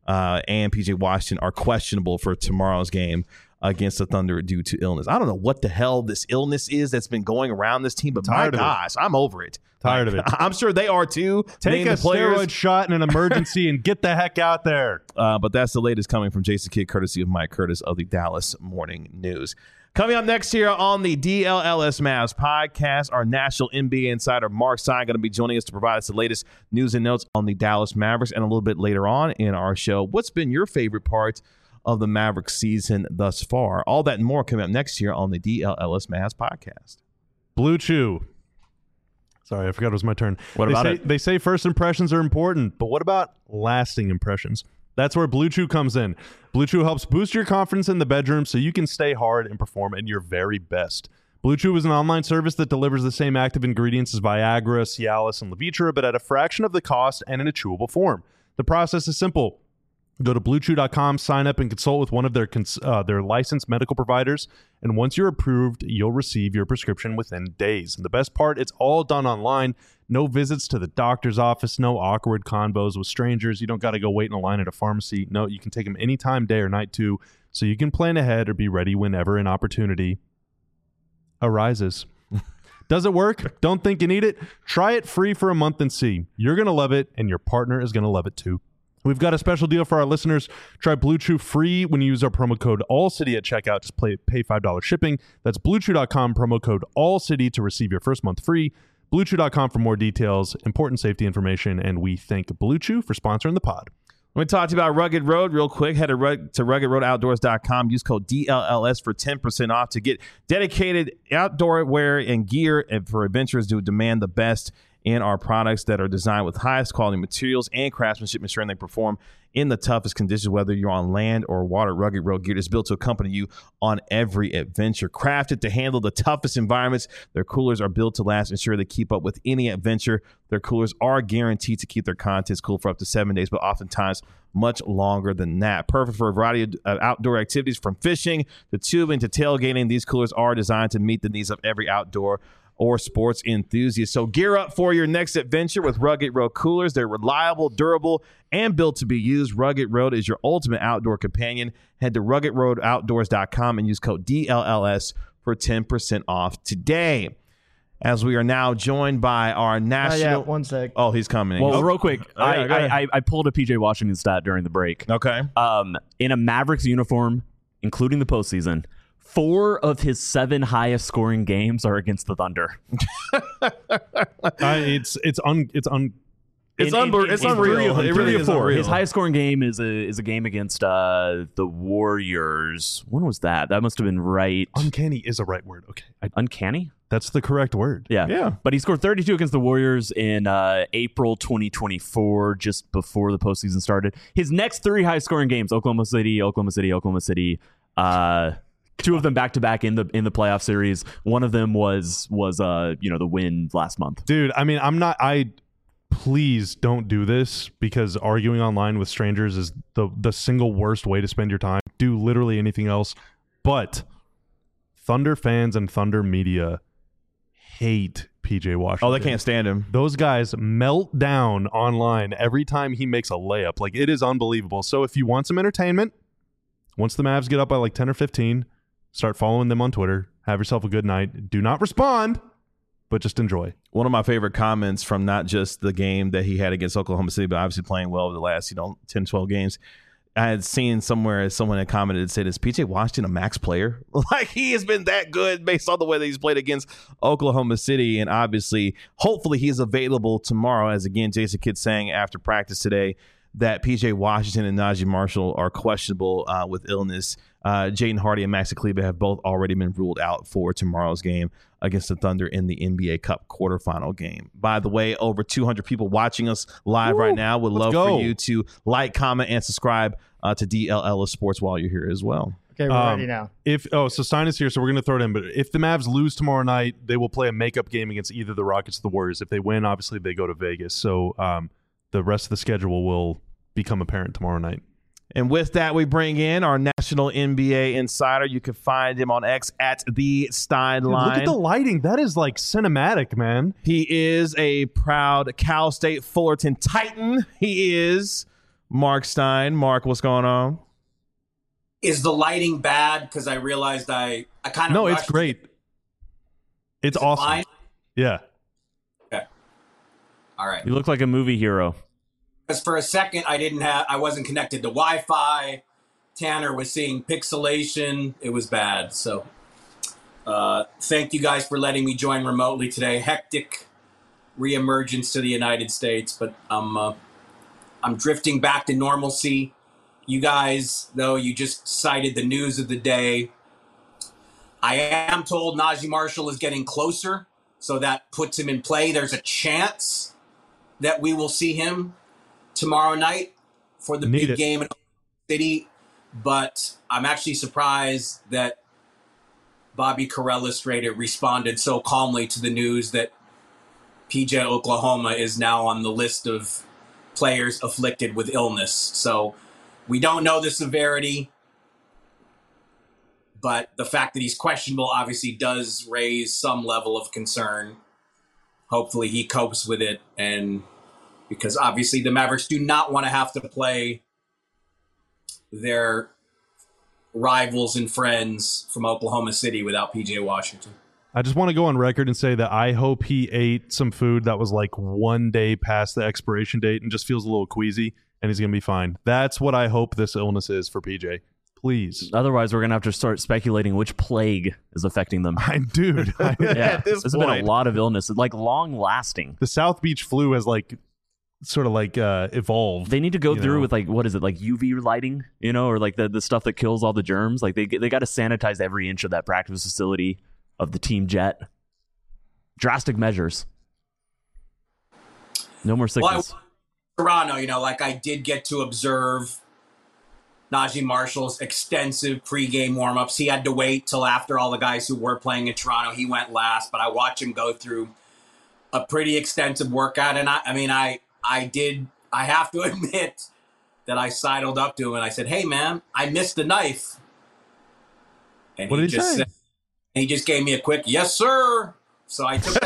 and PJ Washington are questionable for tomorrow's game against the Thunder due to illness. I don't know what the hell this illness is that's been going around this team, but my gosh, I'm over it. Tired of it. I'm sure they are too. Take a steroid shot in an emergency and get the heck out there. But that's the latest coming from Jason Kidd, courtesy of Mike Curtis of the Dallas Morning News. Coming up next here on the DLLS Mavs podcast, our national NBA insider Mark Stein going to be joining us to provide us the latest news and notes on the Dallas Mavericks. And a little bit later on in our show, what's been your favorite part of the Mavericks season thus far? All that and more coming up next year on the DLLS Mavs podcast. Blue Chew. Sorry, I forgot it was my turn. What about it? They say first impressions are important, but what about lasting impressions? That's where Blue Chew comes in. Blue Chew helps boost your confidence in the bedroom so you can stay hard and perform at your very best. Blue Chew is an online service that delivers the same active ingredients as Viagra, Cialis, and Levitra, but at a fraction of the cost and in a chewable form. The process is simple. Go to BlueChew.com, sign up, and consult with one of their licensed medical providers. And once you're approved, you'll receive your prescription within days. And the best part, it's all done online. No visits to the doctor's office, no awkward convos with strangers. You don't got to go wait in a line at a pharmacy. No, you can take them anytime, day or night too, so you can plan ahead or be ready whenever an opportunity arises. Does it work? Don't think you need it? Try it free for a month and see. You're going to love it, and your partner is going to love it too. We've got a special deal for our listeners. Try Blue Chew free when you use our promo code ALLCITY at checkout. Just pay $5 shipping. That's BlueChew.com, promo code ALLCITY to receive your first month free. BlueChew.com for more details, important safety information, and we thank Blue Chew for sponsoring the pod. Let me talk to you about Rugged Road real quick. Head to RuggedRoadOutdoors.com. Use code DLLS for 10% off to get dedicated outdoor wear and gear for adventurers who demand the best in our products that are designed with highest quality materials and craftsmanship, ensuring they perform in the toughest conditions, whether you're on land or water. Rugged Road gear is built to accompany you on every adventure. Crafted to handle the toughest environments, their coolers are built to last, ensure they keep up with any adventure. Their coolers are guaranteed to keep their contents cool for up to 7 days, but oftentimes much longer than that. Perfect for a variety of outdoor activities, from fishing to tubing to tailgating. These coolers are designed to meet the needs of every outdoor or sports enthusiast. So gear up for your next adventure with Rugged Road coolers. They're reliable, durable, and built to be used. Rugged Road is your ultimate outdoor companion. Head to RuggedRoadOutdoors.com and use code DLLS for 10% off today. As we are now joined by our national... one sec. Oh, he's coming. Well, real quick, I pulled a PJ Washington stat during the break. Okay. In a Mavericks uniform, including the postseason, 4 of his 7 highest scoring games are against the Thunder. It's unreal. It really is unreal. His highest scoring game is a game against the Warriors. When was that? That must have been right. Uncanny is a right word. Okay. Uncanny? That's the correct word. Yeah. But he scored 32 against the Warriors in April 2024, just before the postseason started. His next 3 high scoring games: Oklahoma City. 2 of them back to back in the playoff series. One of them was the win last month. Dude, I mean, please don't do this, because arguing online with strangers is the single worst way to spend your time. Do literally anything else. But Thunder fans and Thunder media hate PJ Washington. Oh, they can't stand him. Those guys melt down online every time he makes a layup. Like, it is unbelievable. So if you want some entertainment, once the Mavs get up by like 10 or 15, start following them on Twitter. Have yourself a good night. Do not respond, but just enjoy. One of my favorite comments from not just the game that he had against Oklahoma City, but obviously playing well over the last 10, 12 games. I had seen somewhere someone had commented and said, "Is PJ Washington a max player?" Like, he has been that good based on the way that he's played against Oklahoma City. And obviously, hopefully he's available tomorrow, as again, Jason Kidd saying after practice today that PJ Washington and Najee Marshall are questionable with illness. Jaden Hardy and Maxi Kleber have both already been ruled out for tomorrow's game against the Thunder in the NBA Cup quarterfinal game. By the way, over 200 people watching us live right now. Would love for you to like, comment, and subscribe to DLLS Sports while you're here as well. Okay, we're ready now. So Stein is here, so we're going to throw it in. But if the Mavs lose tomorrow night, they will play a makeup game against either the Rockets or the Warriors. If they win, obviously they go to Vegas. So the rest of the schedule will become apparent tomorrow night. And with that, we bring in our national NBA insider. You can find him on X at the Steinline. Look at the lighting. That is like cinematic, man. He is a proud Cal State Fullerton Titan. He is Mark Stein. Mark, what's going on? Is the lighting bad? Because I realized I kind of No, it's great. It's awesome. Fine? Yeah. Okay. All right. You look like a movie hero. Because for a second I wasn't connected to Wi-Fi. Tanner was seeing pixelation. It was bad. So thank you guys for letting me join remotely today. Hectic reemergence to the United States, but I'm drifting back to normalcy. You guys, though, you just cited the news of the day. I am told Najee Marshall is getting closer, so that puts him in play. There's a chance that we will see him tomorrow night for the big game in Oklahoma City, but I'm actually surprised that Bobby Karalla responded so calmly to the news that PJ Oklahoma is now on the list of players afflicted with illness. So we don't know the severity, but the fact that he's questionable obviously does raise some level of concern. Hopefully he copes with it, and because obviously the Mavericks do not want to have to play their rivals and friends from Oklahoma City without PJ Washington. I just want to go on record and say that I hope he ate some food that was like 1 day past the expiration date and just feels a little queasy, and he's going to be fine. That's what I hope this illness is for PJ. Please. Otherwise, we're going to have to start speculating which plague is affecting them. Dude. Yeah, there's been a lot of illness, like long-lasting. The South Beach flu has evolved. They need to go through with like, what is it, like UV lighting, or like the stuff that kills all the germs. Like they got to sanitize every inch of that practice facility of the team jet. Drastic measures. No more sickness. Well, Toronto, like I did get to observe Najee Marshall's extensive pregame warm-ups. He had to wait till after all the guys who were playing in Toronto. He went last, but I watched him go through a pretty extensive workout. And I have to admit that I sidled up to him and I said, "Hey man, I missed the knife." And what did he say? He just gave me a quick "yes, sir." So I took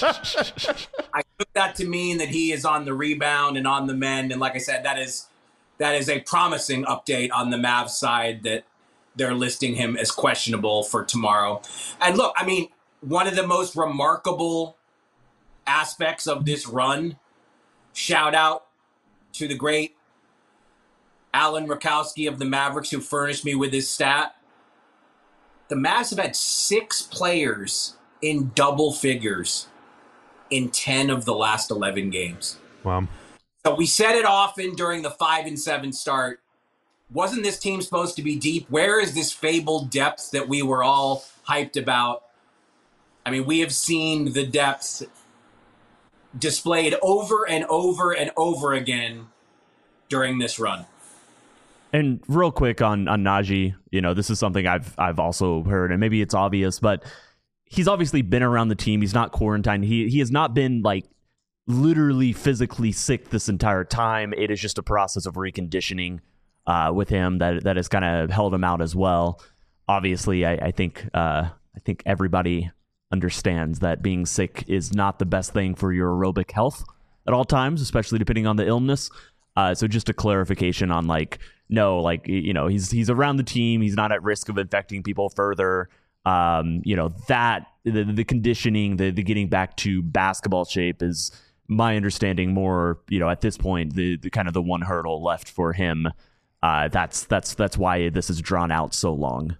that to mean that he is on the rebound and on the mend. And like I said, that is a promising update on the Mavs side that they're listing him as questionable for tomorrow. And look, I mean, one of the most remarkable aspects of this run, shout out to the great Alan Rakowski of the Mavericks who furnished me with this stat. The Mavs have had 6 players in double figures in 10 of the last 11 games. Wow. So we said it often during the 5-7 start. Wasn't this team supposed to be deep? Where is this fabled depth that we were all hyped about? I mean, we have seen the depth displayed over and over and over again during this run. And real quick on Najee, this is something I've also heard, and maybe it's obvious, but he's obviously been around the team. He's not quarantined. He has not been like literally physically sick this entire time. It is just a process of reconditioning with him that has kind of held him out as well. Obviously, I think everybody understands that being sick is not the best thing for your aerobic health at all times, especially depending on the illness. So just a clarification on he's around the team. He's not at risk of infecting people further. That the conditioning, the getting back to basketball shape is my understanding more, at this point, the kind of the one hurdle left for him. That's why this is drawn out so long.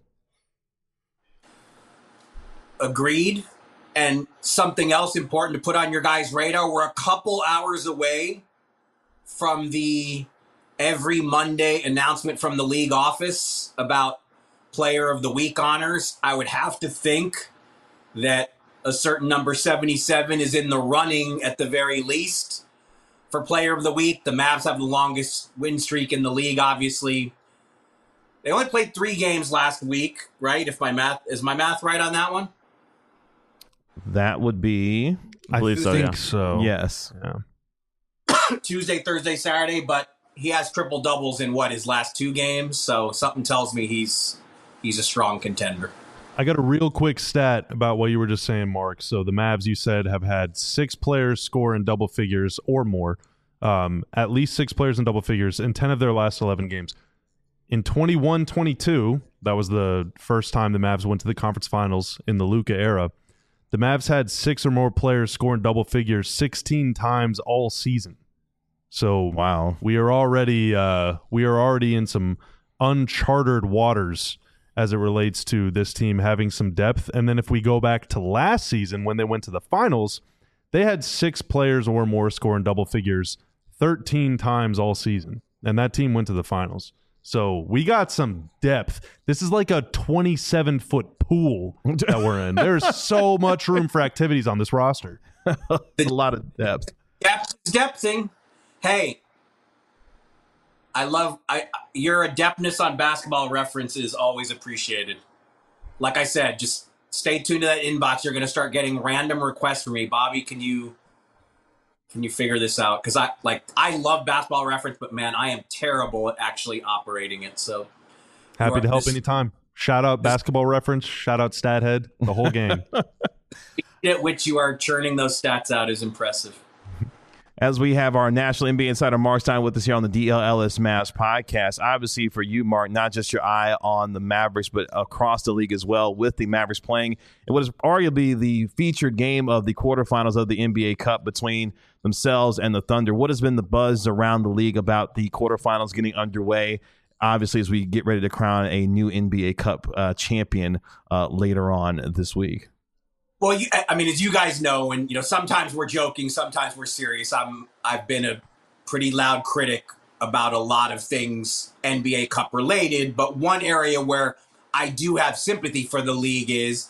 Agreed. And something else important to put on your guys' radar, we're a couple hours away from the every Monday announcement from the league office about Player of the Week honors. I would have to think that a certain number 77 is in the running at the very least for Player of the Week. The Mavs have the longest win streak in the league, obviously. They only played 3 games last week, right? Is my math right on that one? That would be, I believe so. think so. Yes. Yeah. Tuesday, Thursday, Saturday, but he has triple doubles in his last 2 games. So something tells me he's a strong contender. I got a real quick stat about what you were just saying, Mark. So the Mavs, you said, have had 6 players score in double figures or more at least 6 players in double figures in 10 of their last 11 games. In 21-22, that was the first time the Mavs went to the conference finals in the Luka era. The Mavs had 6 or more players score in double figures 16 times all season. So wow, we are already in some uncharted waters as it relates to this team having some depth. And then if we go back to last season when they went to the finals, they had 6 players or more score in double figures 13 times all season, and that team went to the finals. So we got some depth. This is like a 27-foot pool that we're in. There's so much room for activities on this roster. A lot of depth. Depthing. Hey, your adeptness on Basketball Reference is always appreciated. Like I said, just stay tuned to that inbox. You're going to start getting random requests from me. Bobby, can you figure this out? Because I love Basketball Reference, but man, I am terrible at actually operating it. So happy to help anytime. Shout out Basketball Reference. Shout out StatHead. The whole gang. At which you are churning those stats out is impressive. As we have our National NBA Insider Mark Stein with us here on the DLLS Mavs podcast. Obviously for you, Mark, not just your eye on the Mavericks, but across the league as well, with the Mavericks playing in what is arguably the featured game of the quarterfinals of the NBA Cup between themselves and the Thunder. What has been the buzz around the league about the quarterfinals getting underway, obviously, as we get ready to crown a new NBA Cup champion later on this week? Well, as you guys know, and sometimes we're joking, sometimes we're serious. I've been a pretty loud critic about a lot of things NBA Cup related, but one area where I do have sympathy for the league is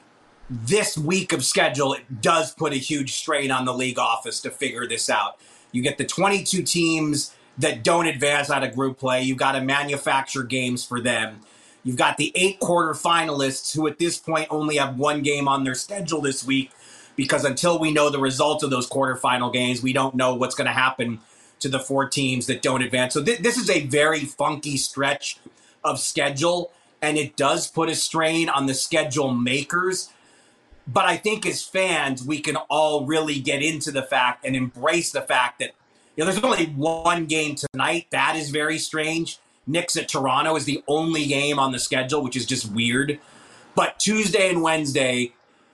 this week of schedule. It does put a huge strain on the league office to figure this out. You get the 22 teams that don't advance out of group play. You've got to manufacture games for them. You've got the 8 quarterfinalists who at this point only have 1 game on their schedule this week, because until we know the results of those quarterfinal games, we don't know what's going to happen to the 4 teams that don't advance. So this is a very funky stretch of schedule, and it does put a strain on the schedule makers. But I think as fans, we can all really get into the fact and embrace the fact that there's only 1 game tonight. That is very strange. Knicks at Toronto is the only game on the schedule, which is just weird. But Tuesday and Wednesday,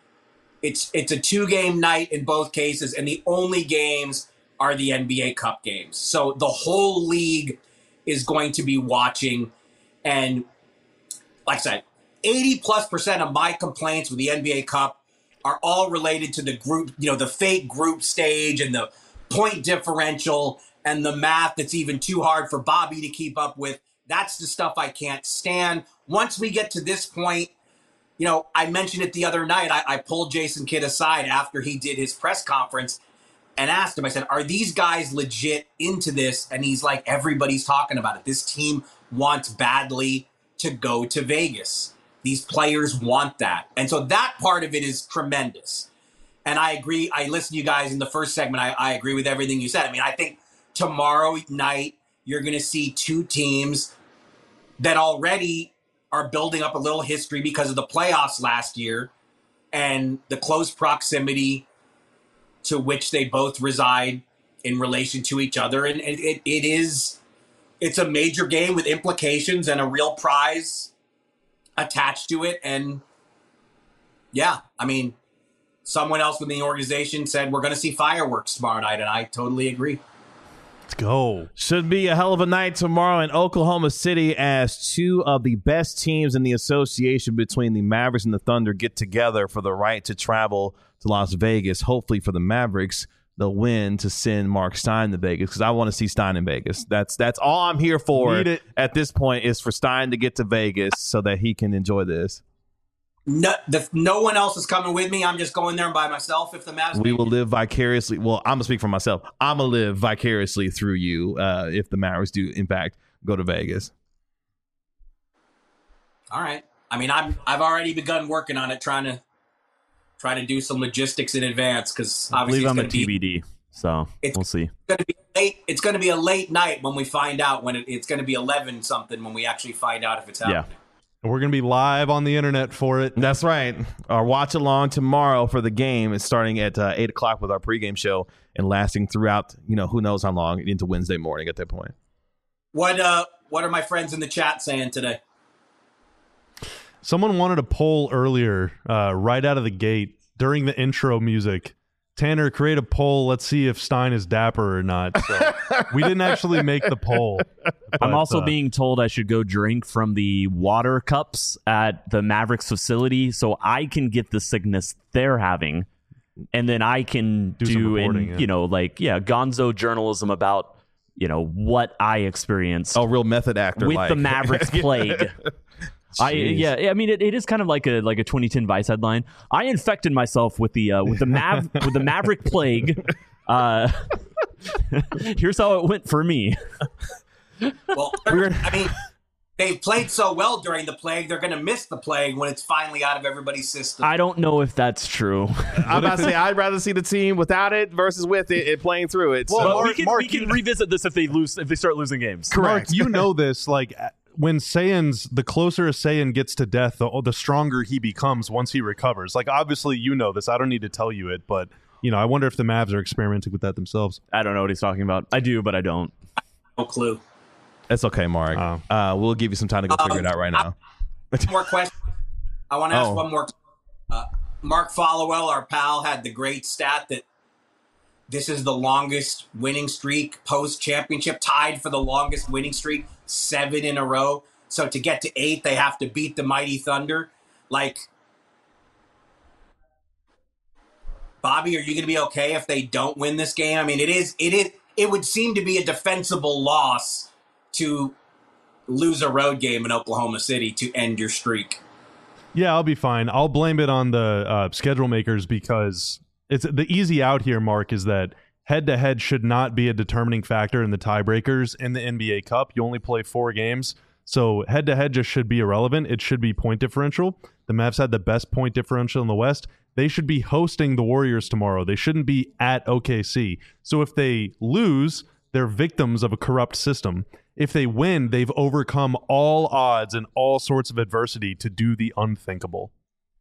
it's a 2-game night in both cases, and the only games are the NBA Cup games. So the whole league is going to be watching. And like I said, 80+% of my complaints with the NBA Cup are all related to the group, the fake group stage and the point differential and the math that's even too hard for Bobby to keep up with. That's the stuff I can't stand. Once we get to this point, I mentioned it the other night. I pulled Jason Kidd aside after he did his press conference and asked him, I said, are these guys legit into this? And he's like, everybody's talking about it. This team wants badly to go to Vegas. These players want that. And so that part of it is tremendous. And I agree. I listened to you guys in the first segment. I agree with everything you said. I think tomorrow night, you're going to see 2 teams that already are building up a little history because of the playoffs last year and the close proximity to which they both reside in relation to each other. And it's a major game with implications and a real prize attached to it. And yeah, someone else within the organization said we're going to see fireworks tomorrow night, and I totally agree. Let's go. Should be a hell of a night tomorrow in Oklahoma City as 2 of the best teams in the association between the Mavericks and the Thunder get together for the right to travel to Las Vegas. Hopefully for the Mavericks, they'll win to send Mark Stein to Vegas, because I want to see Stein in Vegas. That's all I'm here for at this point, is for Stein to get to Vegas so that he can enjoy this. No one else is coming with me. I'm just going there by myself. If the Mavs, we will live vicariously. Well, I'm gonna speak for myself. I'm gonna live vicariously through you if the Mavericks do, in fact, go to Vegas. All right. I've already begun working on it, trying to do some logistics in advance, because obviously it's going to be TBD. So we'll see. It's going to be a late night when we find out when it's going to be 11 something when we actually find out if it's happening. Yeah. We're going to be live on the internet for it. That's right. Our watch along tomorrow for the game is starting at 8 o'clock with our pregame show and lasting throughout, who knows how long into Wednesday morning at that point. What are my friends in the chat saying today? Someone wanted a poll earlier, right out of the gate during the intro music. Tanner, create a poll. Let's see if Stein is dapper or not. So we didn't actually make the poll. I'm also being told I should go drink from the water cups at the Mavericks facility so I can get the sickness they're having. And then I can do gonzo journalism about, what I experienced. Oh, real method actor. With the Mavericks plague. It is kind of like a 2010 Vice headline. I infected myself with the Maverick plague. Here's how it went for me. Well, they've played so well during the plague, they're going to miss the plague when it's finally out of everybody's system. I don't know if that's true. I'm about to say I'd rather see the team without it versus with it playing through it. Well, we can revisit this if they start losing games. Correct. Mark, this when the closer a Saiyan gets to death, the stronger he becomes once he recovers. Obviously, this. I don't need to tell you it, but, I wonder if the Mavs are experimenting with that themselves. I don't know what he's talking about. I do, but I don't. No clue. It's okay, Mark. We'll give you some time to go figure it out right now. More question. I want to ask one more. Mark Followell, our pal, had the great stat that this is the longest winning streak post-championship, tied for the longest winning streak, 7 in a row. So to get to 8, they have to beat the mighty Thunder. Bobby, are you going to be okay if they don't win this game? I mean, it would seem to be a defensible loss to lose a road game in Oklahoma City to end your streak. Yeah, I'll be fine. I'll blame it on the schedule makers because it's the easy out here, Mark, is that head-to-head should not be a determining factor in the tiebreakers in the NBA Cup. You only play 4 games, so head-to-head just should be irrelevant. It should be point differential. The Mavs had the best point differential in the West. They should be hosting the Warriors tomorrow. They shouldn't be at OKC. So if they lose, they're victims of a corrupt system. If they win, they've overcome all odds and all sorts of adversity to do the unthinkable.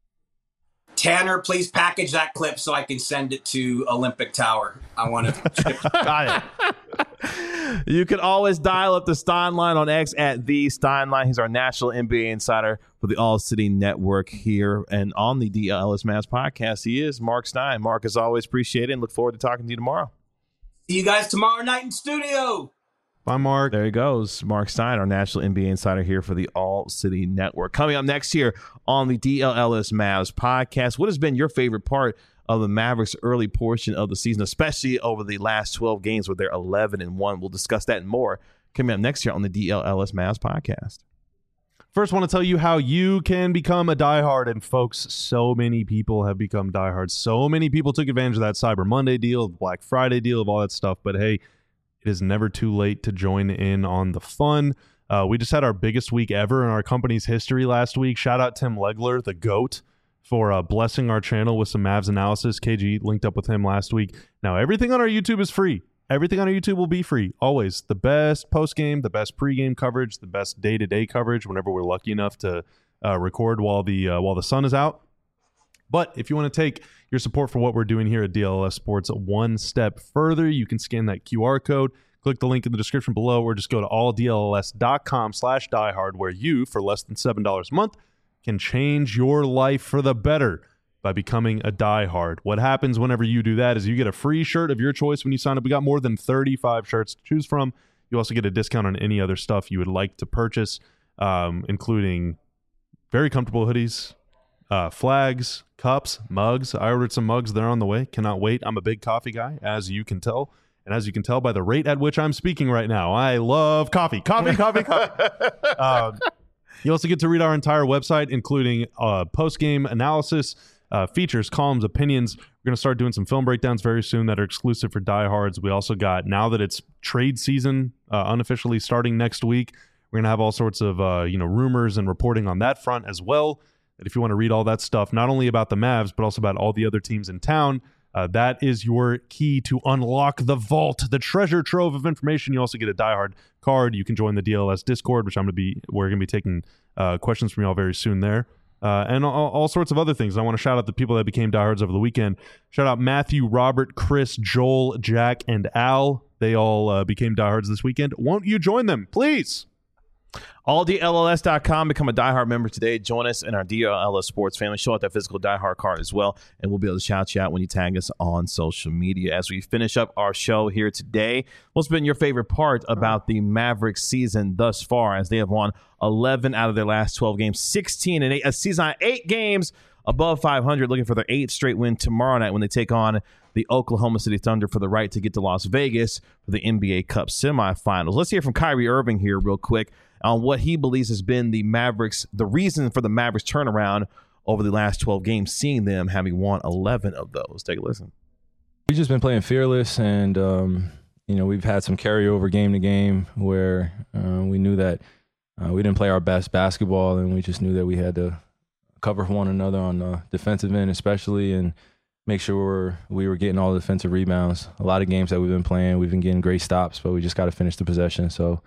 Tanner, please package that clip so I can send it to Olympic Tower. I want to. Got it. You can always dial up the Stein line on X at the Stein line. He's our national NBA insider for the All City Network here and on the DLS Mavs podcast. He is Mark Stein. Mark, as always, appreciate it and look forward to talking to you tomorrow. See you guys tomorrow night in studio. Bye, Mark. There he goes. Mark Stein, our national NBA insider here for the All City Network. Coming up next here on the DLS Mavs podcast, what has been your favorite part of the Mavericks' early portion of the season, especially over the last 12 games where they're 11-1? We'll discuss that and more coming up next year on the DLS Mavs podcast. First, I want to tell you how you can become a diehard. And folks, so many people have become diehards. So many people took advantage of that Cyber Monday deal, the Black Friday deal, of all that stuff. But hey, it is never too late to join in on the fun. We just had our biggest week ever in our company's history last week. Shout out Tim Legler, the GOAT, for blessing our channel with some Mavs analysis. KG linked up with him last week. Now, everything on our YouTube is free. Everything on our YouTube will be free, always. The best post-game, the best pre-game coverage, the best day-to-day coverage whenever we're lucky enough to record while the sun is out. But if you want to take your support for what we're doing here at DLS Sports one step further, you can scan that QR code, click the link in the description below, or just go to alldls.com/diehard, where you, for less than $7 a month, can change your life for the better by becoming a diehard. What happens whenever you do that is you get a free shirt of your choice when you sign up. We got more than 35 shirts to choose from. You also get a discount on any other stuff you would like to purchase, including very comfortable hoodies, flags, cups, mugs. I ordered some mugs. They're on the way. Cannot wait. I'm a big coffee guy, as you can tell. And as you can tell by the rate at which I'm speaking right now, I love coffee. Coffee. You also get to read our entire website, including post-game analysis, features, columns, opinions. We're going to start doing some film breakdowns very soon that are exclusive for diehards. We also got, now that it's trade season, unofficially starting next week, we're going to have all sorts of rumors and reporting on that front as well. That if you want to read all that stuff, not only about the Mavs, but also about all the other teams in town, that is your key to unlock the vault, the treasure trove of information. You also get a diehard card. You can join the DLS Discord, which we're going to be taking questions from y'all very soon there. and all sorts of other things. I want to shout out the people that became diehards over the weekend. Shout out Matthew, Robert, Chris, Joel, Jack, and Al. They all became diehards this weekend. Won't you join them, please? AllDLS.com. Become a diehard member today. Join us in our DLS Sports family. Show out that physical diehard card as well, and we'll be able to shout you out when you tag us on social media. As we finish up our show here today, what's been your favorite part about the Mavericks season thus far, as they have won 11 out of their last 12 games, 16-8, a season on 8 games above 500, looking for their 8th straight win tomorrow night when they take on the Oklahoma City Thunder for the right to get to Las Vegas for the NBA Cup semifinals. Let's hear from Kyrie Irving here real quick on what he believes has been the reason for the Mavericks turnaround over the last 12 games, seeing them having won 11 of those. Take a listen. We've just been playing fearless, and we've had some carryover game to game where we knew that we didn't play our best basketball, and we just knew that we had to cover one another on the defensive end especially, and make sure we were getting all the defensive rebounds. A lot of games that we've been playing, we've been getting great stops, but we just got to finish the possession. So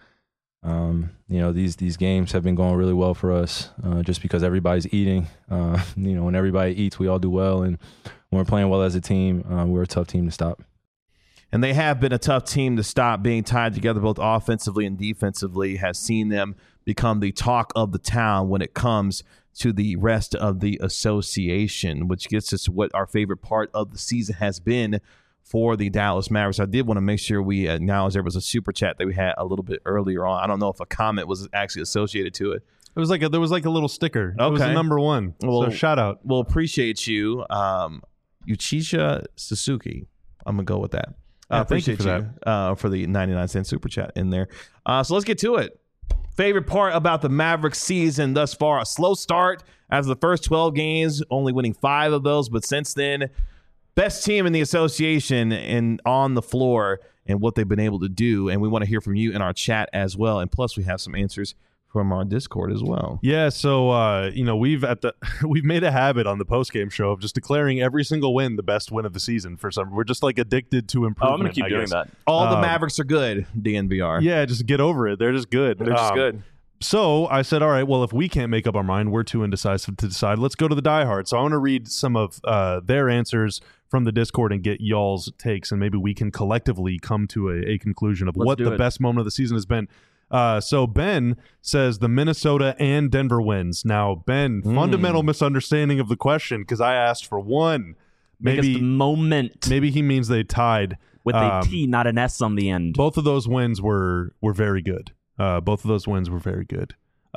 these games have been going really well for us, just because everybody's eating. When everybody eats, we all do well, and when we're playing well as a team, we're a tough team to stop. And they have been a tough team to stop. Being tied together both offensively and defensively has seen them become the talk of the town when it comes to the rest of the association, which gets us to what our favorite part of the season has been for the Dallas Mavericks. I did want to make sure we acknowledge there was a super chat that we had a little bit earlier on. I don't know if a comment was actually associated to it. There was like a little sticker. Okay. It was the number one. Well, so shout out. We'll appreciate you, Yuchisha Suzuki. I'm gonna go with that. Thank you for that for the 99-cent super chat in there. So let's get to it. Favorite part about the Mavericks season thus far: a slow start after the first 12 games, only winning 5 of those, but since then, best team in the association and on the floor and what they've been able to do. And we want to hear from you in our chat as well. And plus, we have some answers from our Discord as well. Yeah, so we've made a habit on the postgame show of just declaring every single win the best win of the season. We're just like addicted to improvement. I'm gonna keep doing that. All the Mavericks are good, DNVR. Yeah, just get over it. They're just good. They're just good. So I said, all right, well, if we can't make up our mind, we're too indecisive to decide. Let's go to the diehard. So I want to read some of their answers from the Discord and get y'all's takes, and maybe we can collectively come to a conclusion of what the best moment of the season has been. So Ben says the Minnesota and Denver wins. Now, Ben, fundamental misunderstanding of the question, because I asked for one. Maybe the moment. Maybe he means they tied. With a T, not an S on the end. Both of those wins were very good. Both of those wins were very good.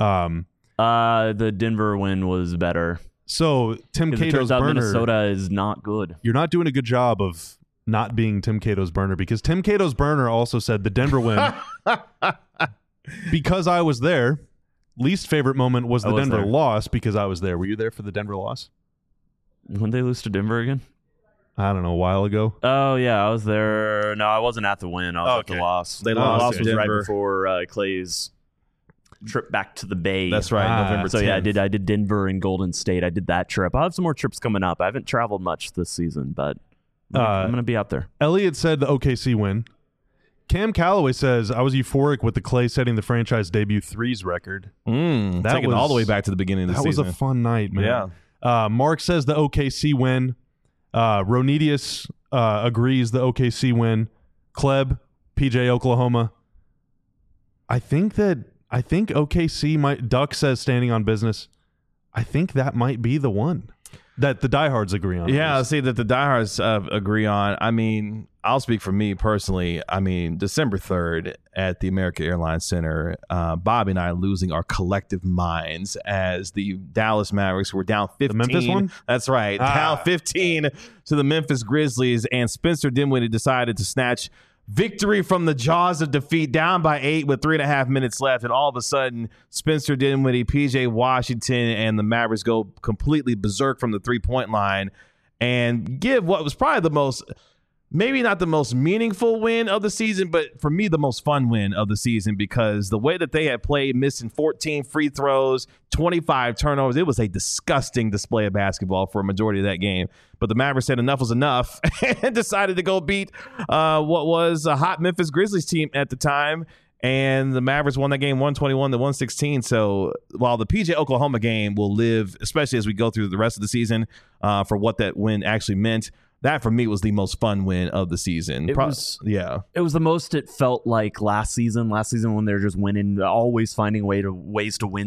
The Denver win was better. So Tim Cato's burner. Minnesota is not good. You're not doing a good job of not being Tim Cato's burner, because Tim Cato's burner also said the Denver win. Because I was there, least favorite moment was the Denver loss because I was there. Were you there for the Denver loss? When they lose to Denver again? I don't know, a while ago. Oh, yeah, I was there. No, I wasn't at the win. I was at the loss. They lost. The loss was right before Clay's trip back to the Bay. That's right, November 10th. So, yeah, I did Denver and Golden State. I did that trip. I'll have some more trips coming up. I haven't traveled much this season, but I'm going to be out there. Elliot said the OKC win. Cam Calloway says, I was euphoric with the Clay setting the franchise debut threes record. That taking all the way back to the beginning of the season. That was a fun night, man. Yeah. Mark says the OKC win. Ronedius agrees the OKC win. Kleb, PJ, Oklahoma. I think OKC might. Duck says standing on business. I think that might be the one that the diehards agree on. Yeah, I'll see that the diehards agree on. I mean, I'll speak for me personally. I mean, December 3rd at the American Airlines Center, Bobby and I losing our collective minds as the Dallas Mavericks were down 15. The Memphis one? That's right. Down 15 to the Memphis Grizzlies, and Spencer Dinwiddie decided to snatch victory from the jaws of defeat, down by 8 with 3.5 minutes left. And all of a sudden, Spencer Dinwiddie, PJ Washington, and the Mavericks go completely berserk from the three-point line and give what was probably the most, maybe not the most meaningful win of the season, but for me, the most fun win of the season, because the way that they had played, missing 14 free throws, 25 turnovers, it was a disgusting display of basketball for a majority of that game. But the Mavericks said enough was enough and decided to go beat what was a hot Memphis Grizzlies team at the time. And the Mavericks won that game 121-116. So while the PJ Oklahoma game will live, especially as we go through the rest of the season, for what that win actually meant, that for me was the most fun win of the season. It was the most it felt like last season. Last season when they're just winning, always finding ways to win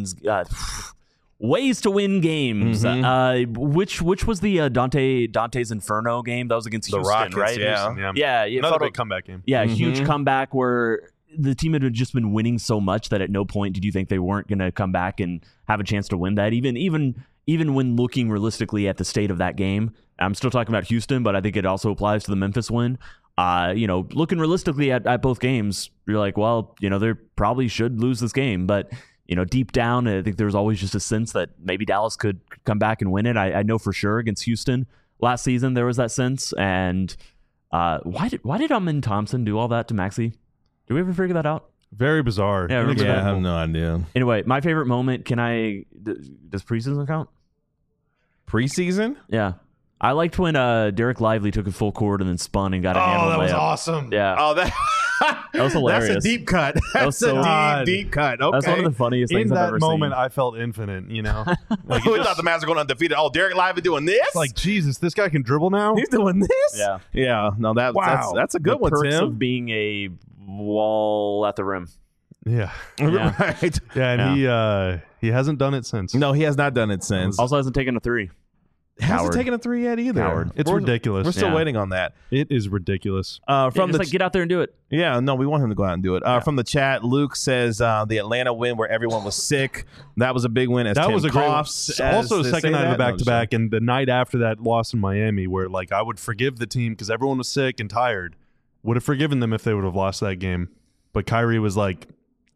games. Mm-hmm. Which was the Dante's Inferno game? That was against the Houston, Rockets, right? Yeah. Another big comeback game. Yeah, huge comeback where the team had just been winning so much that at no point did you think they weren't going to come back and have a chance to win that. Even when looking realistically at the state of that game, I'm still talking about Houston, but I think it also applies to the Memphis win. Looking realistically at both games, you're like, well, they probably should lose this game, but deep down, I think there's always just a sense that maybe Dallas could come back and win it. I know for sure against Houston last season there was that sense. And why did Amin Thompson do all that to Maxey? Did we ever figure that out? Very bizarre. Yeah, I have no idea. Anyway, my favorite moment. Does preseason count? Preseason? Yeah. I liked when Derek Lively took a full court and then spun and got a handle layup. That was awesome. Yeah. Oh, that was hilarious. That's a deep cut. That's a deep cut. Okay. That's one of the funniest things I've ever seen. In that moment, I felt infinite, We thought the Mavs were going undefeated. Oh, Derek Lively doing this? It's like, Jesus, this guy can dribble now? He's doing this? Yeah. Yeah. No, that's a good one, perks Tim. of being a wall at the rim. Yeah. Right. Yeah, and he hasn't done it since. No, he has not done it since. Also hasn't taken a three. Hasn't taken a three yet either. Coward. It's ridiculous. We're still waiting on that. It is ridiculous. Get out there and do it. Yeah, no, we want him to go out and do it. From the chat, Luke says the Atlanta win where everyone was sick. That was a big win. That was a great one. Also, second night of the back-to-back, and the night after that loss in Miami, where I would forgive the team because everyone was sick and tired. Would have forgiven them if they would have lost that game, but Kyrie was like,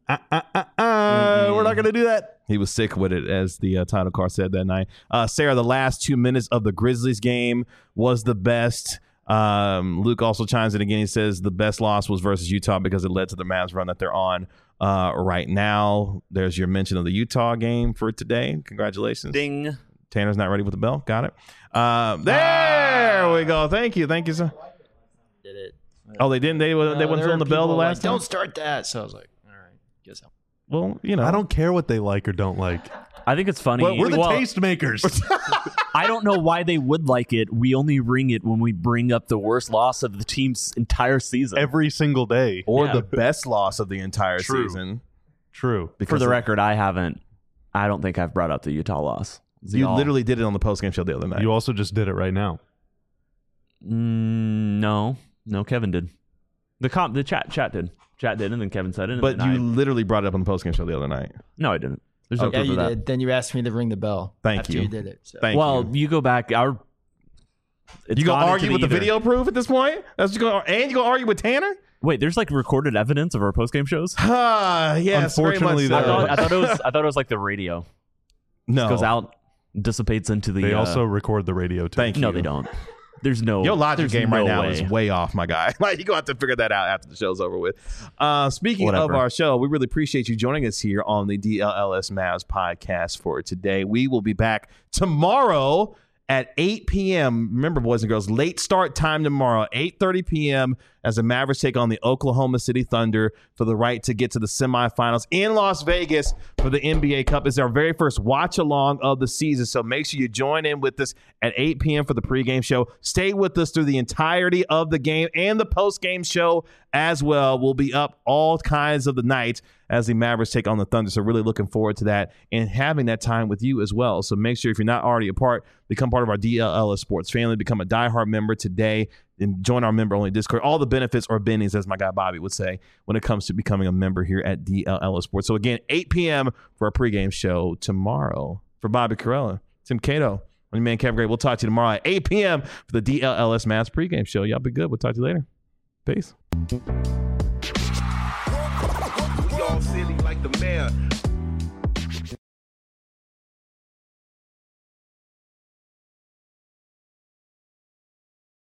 we're not going to do that. He was sick with it, as the title card said that night. Sarah, the last 2 minutes of the Grizzlies game was the best. Luke also chimes in again. He says the best loss was versus Utah because it led to the Mavs run that they're on right now. There's your mention of the Utah game for today. Congratulations. Ding. Tanner's not ready with the bell. Got it. There we go. Thank you, sir. Did it. Oh, they didn't? They wouldn't fill in the bell the last time? Don't start that. So I was like, all right, guess I'll. Well, I don't care what they like or don't like. I think it's funny. We're the taste makers. I don't know why they would like it. We only ring it when we bring up the worst loss of the team's entire season. Every single day. Or the best loss of the entire season. True. For the record, I don't think I've brought up the Utah loss. You literally did it on the postgame show the other night. You also just did it right now. No, Kevin did. The chat did. Chat did, and then Kevin said it. But you literally brought it up on the postgame show the other night. No, I didn't. There's no proof you of that. did. Then you asked me to ring the bell. After you did it. So. Thank you. You go back. You gonna argue with the video proof at this point? And you gonna argue with Tanner? Wait, there's recorded evidence of our postgame shows. Yes. Unfortunately, I thought it was like the radio. No, it goes out, dissipates into the. They also record the radio too. Thank you. No, they don't. There's no. Your logic game right now way. is way off, my guy. You're gonna have to figure that out after the show's over with. Speaking of our show, we really appreciate you joining us here on the DLLS Mavs podcast for today. We will be back tomorrow at 8 p.m. Remember, boys and girls, late start time tomorrow, 8:30 p.m. as the Mavericks take on the Oklahoma City Thunder for the right to get to the semifinals in Las Vegas for the NBA Cup. It's our very first watch along of the season, so make sure you join in with us at 8 p.m. for the pregame show. Stay with us through the entirety of the game and the postgame show as well. We'll be up all kinds of the night as the Mavericks take on the Thunder. So really looking forward to that and having that time with you as well. So make sure if you're not already a part, become part of our DLLS Sports family, become a diehard member today, and join our member-only Discord. All the benefits or bennies, as my guy Bobby would say, when it comes to becoming a member here at DLLS Sports. So again, 8 p.m. for our pregame show tomorrow. For Bobby Carella, Tim Cato, I'm your man Kevin Gray. We'll talk to you tomorrow at 8 p.m. for the DLLS Mavs pregame show. Y'all be good. We'll talk to you later. Peace.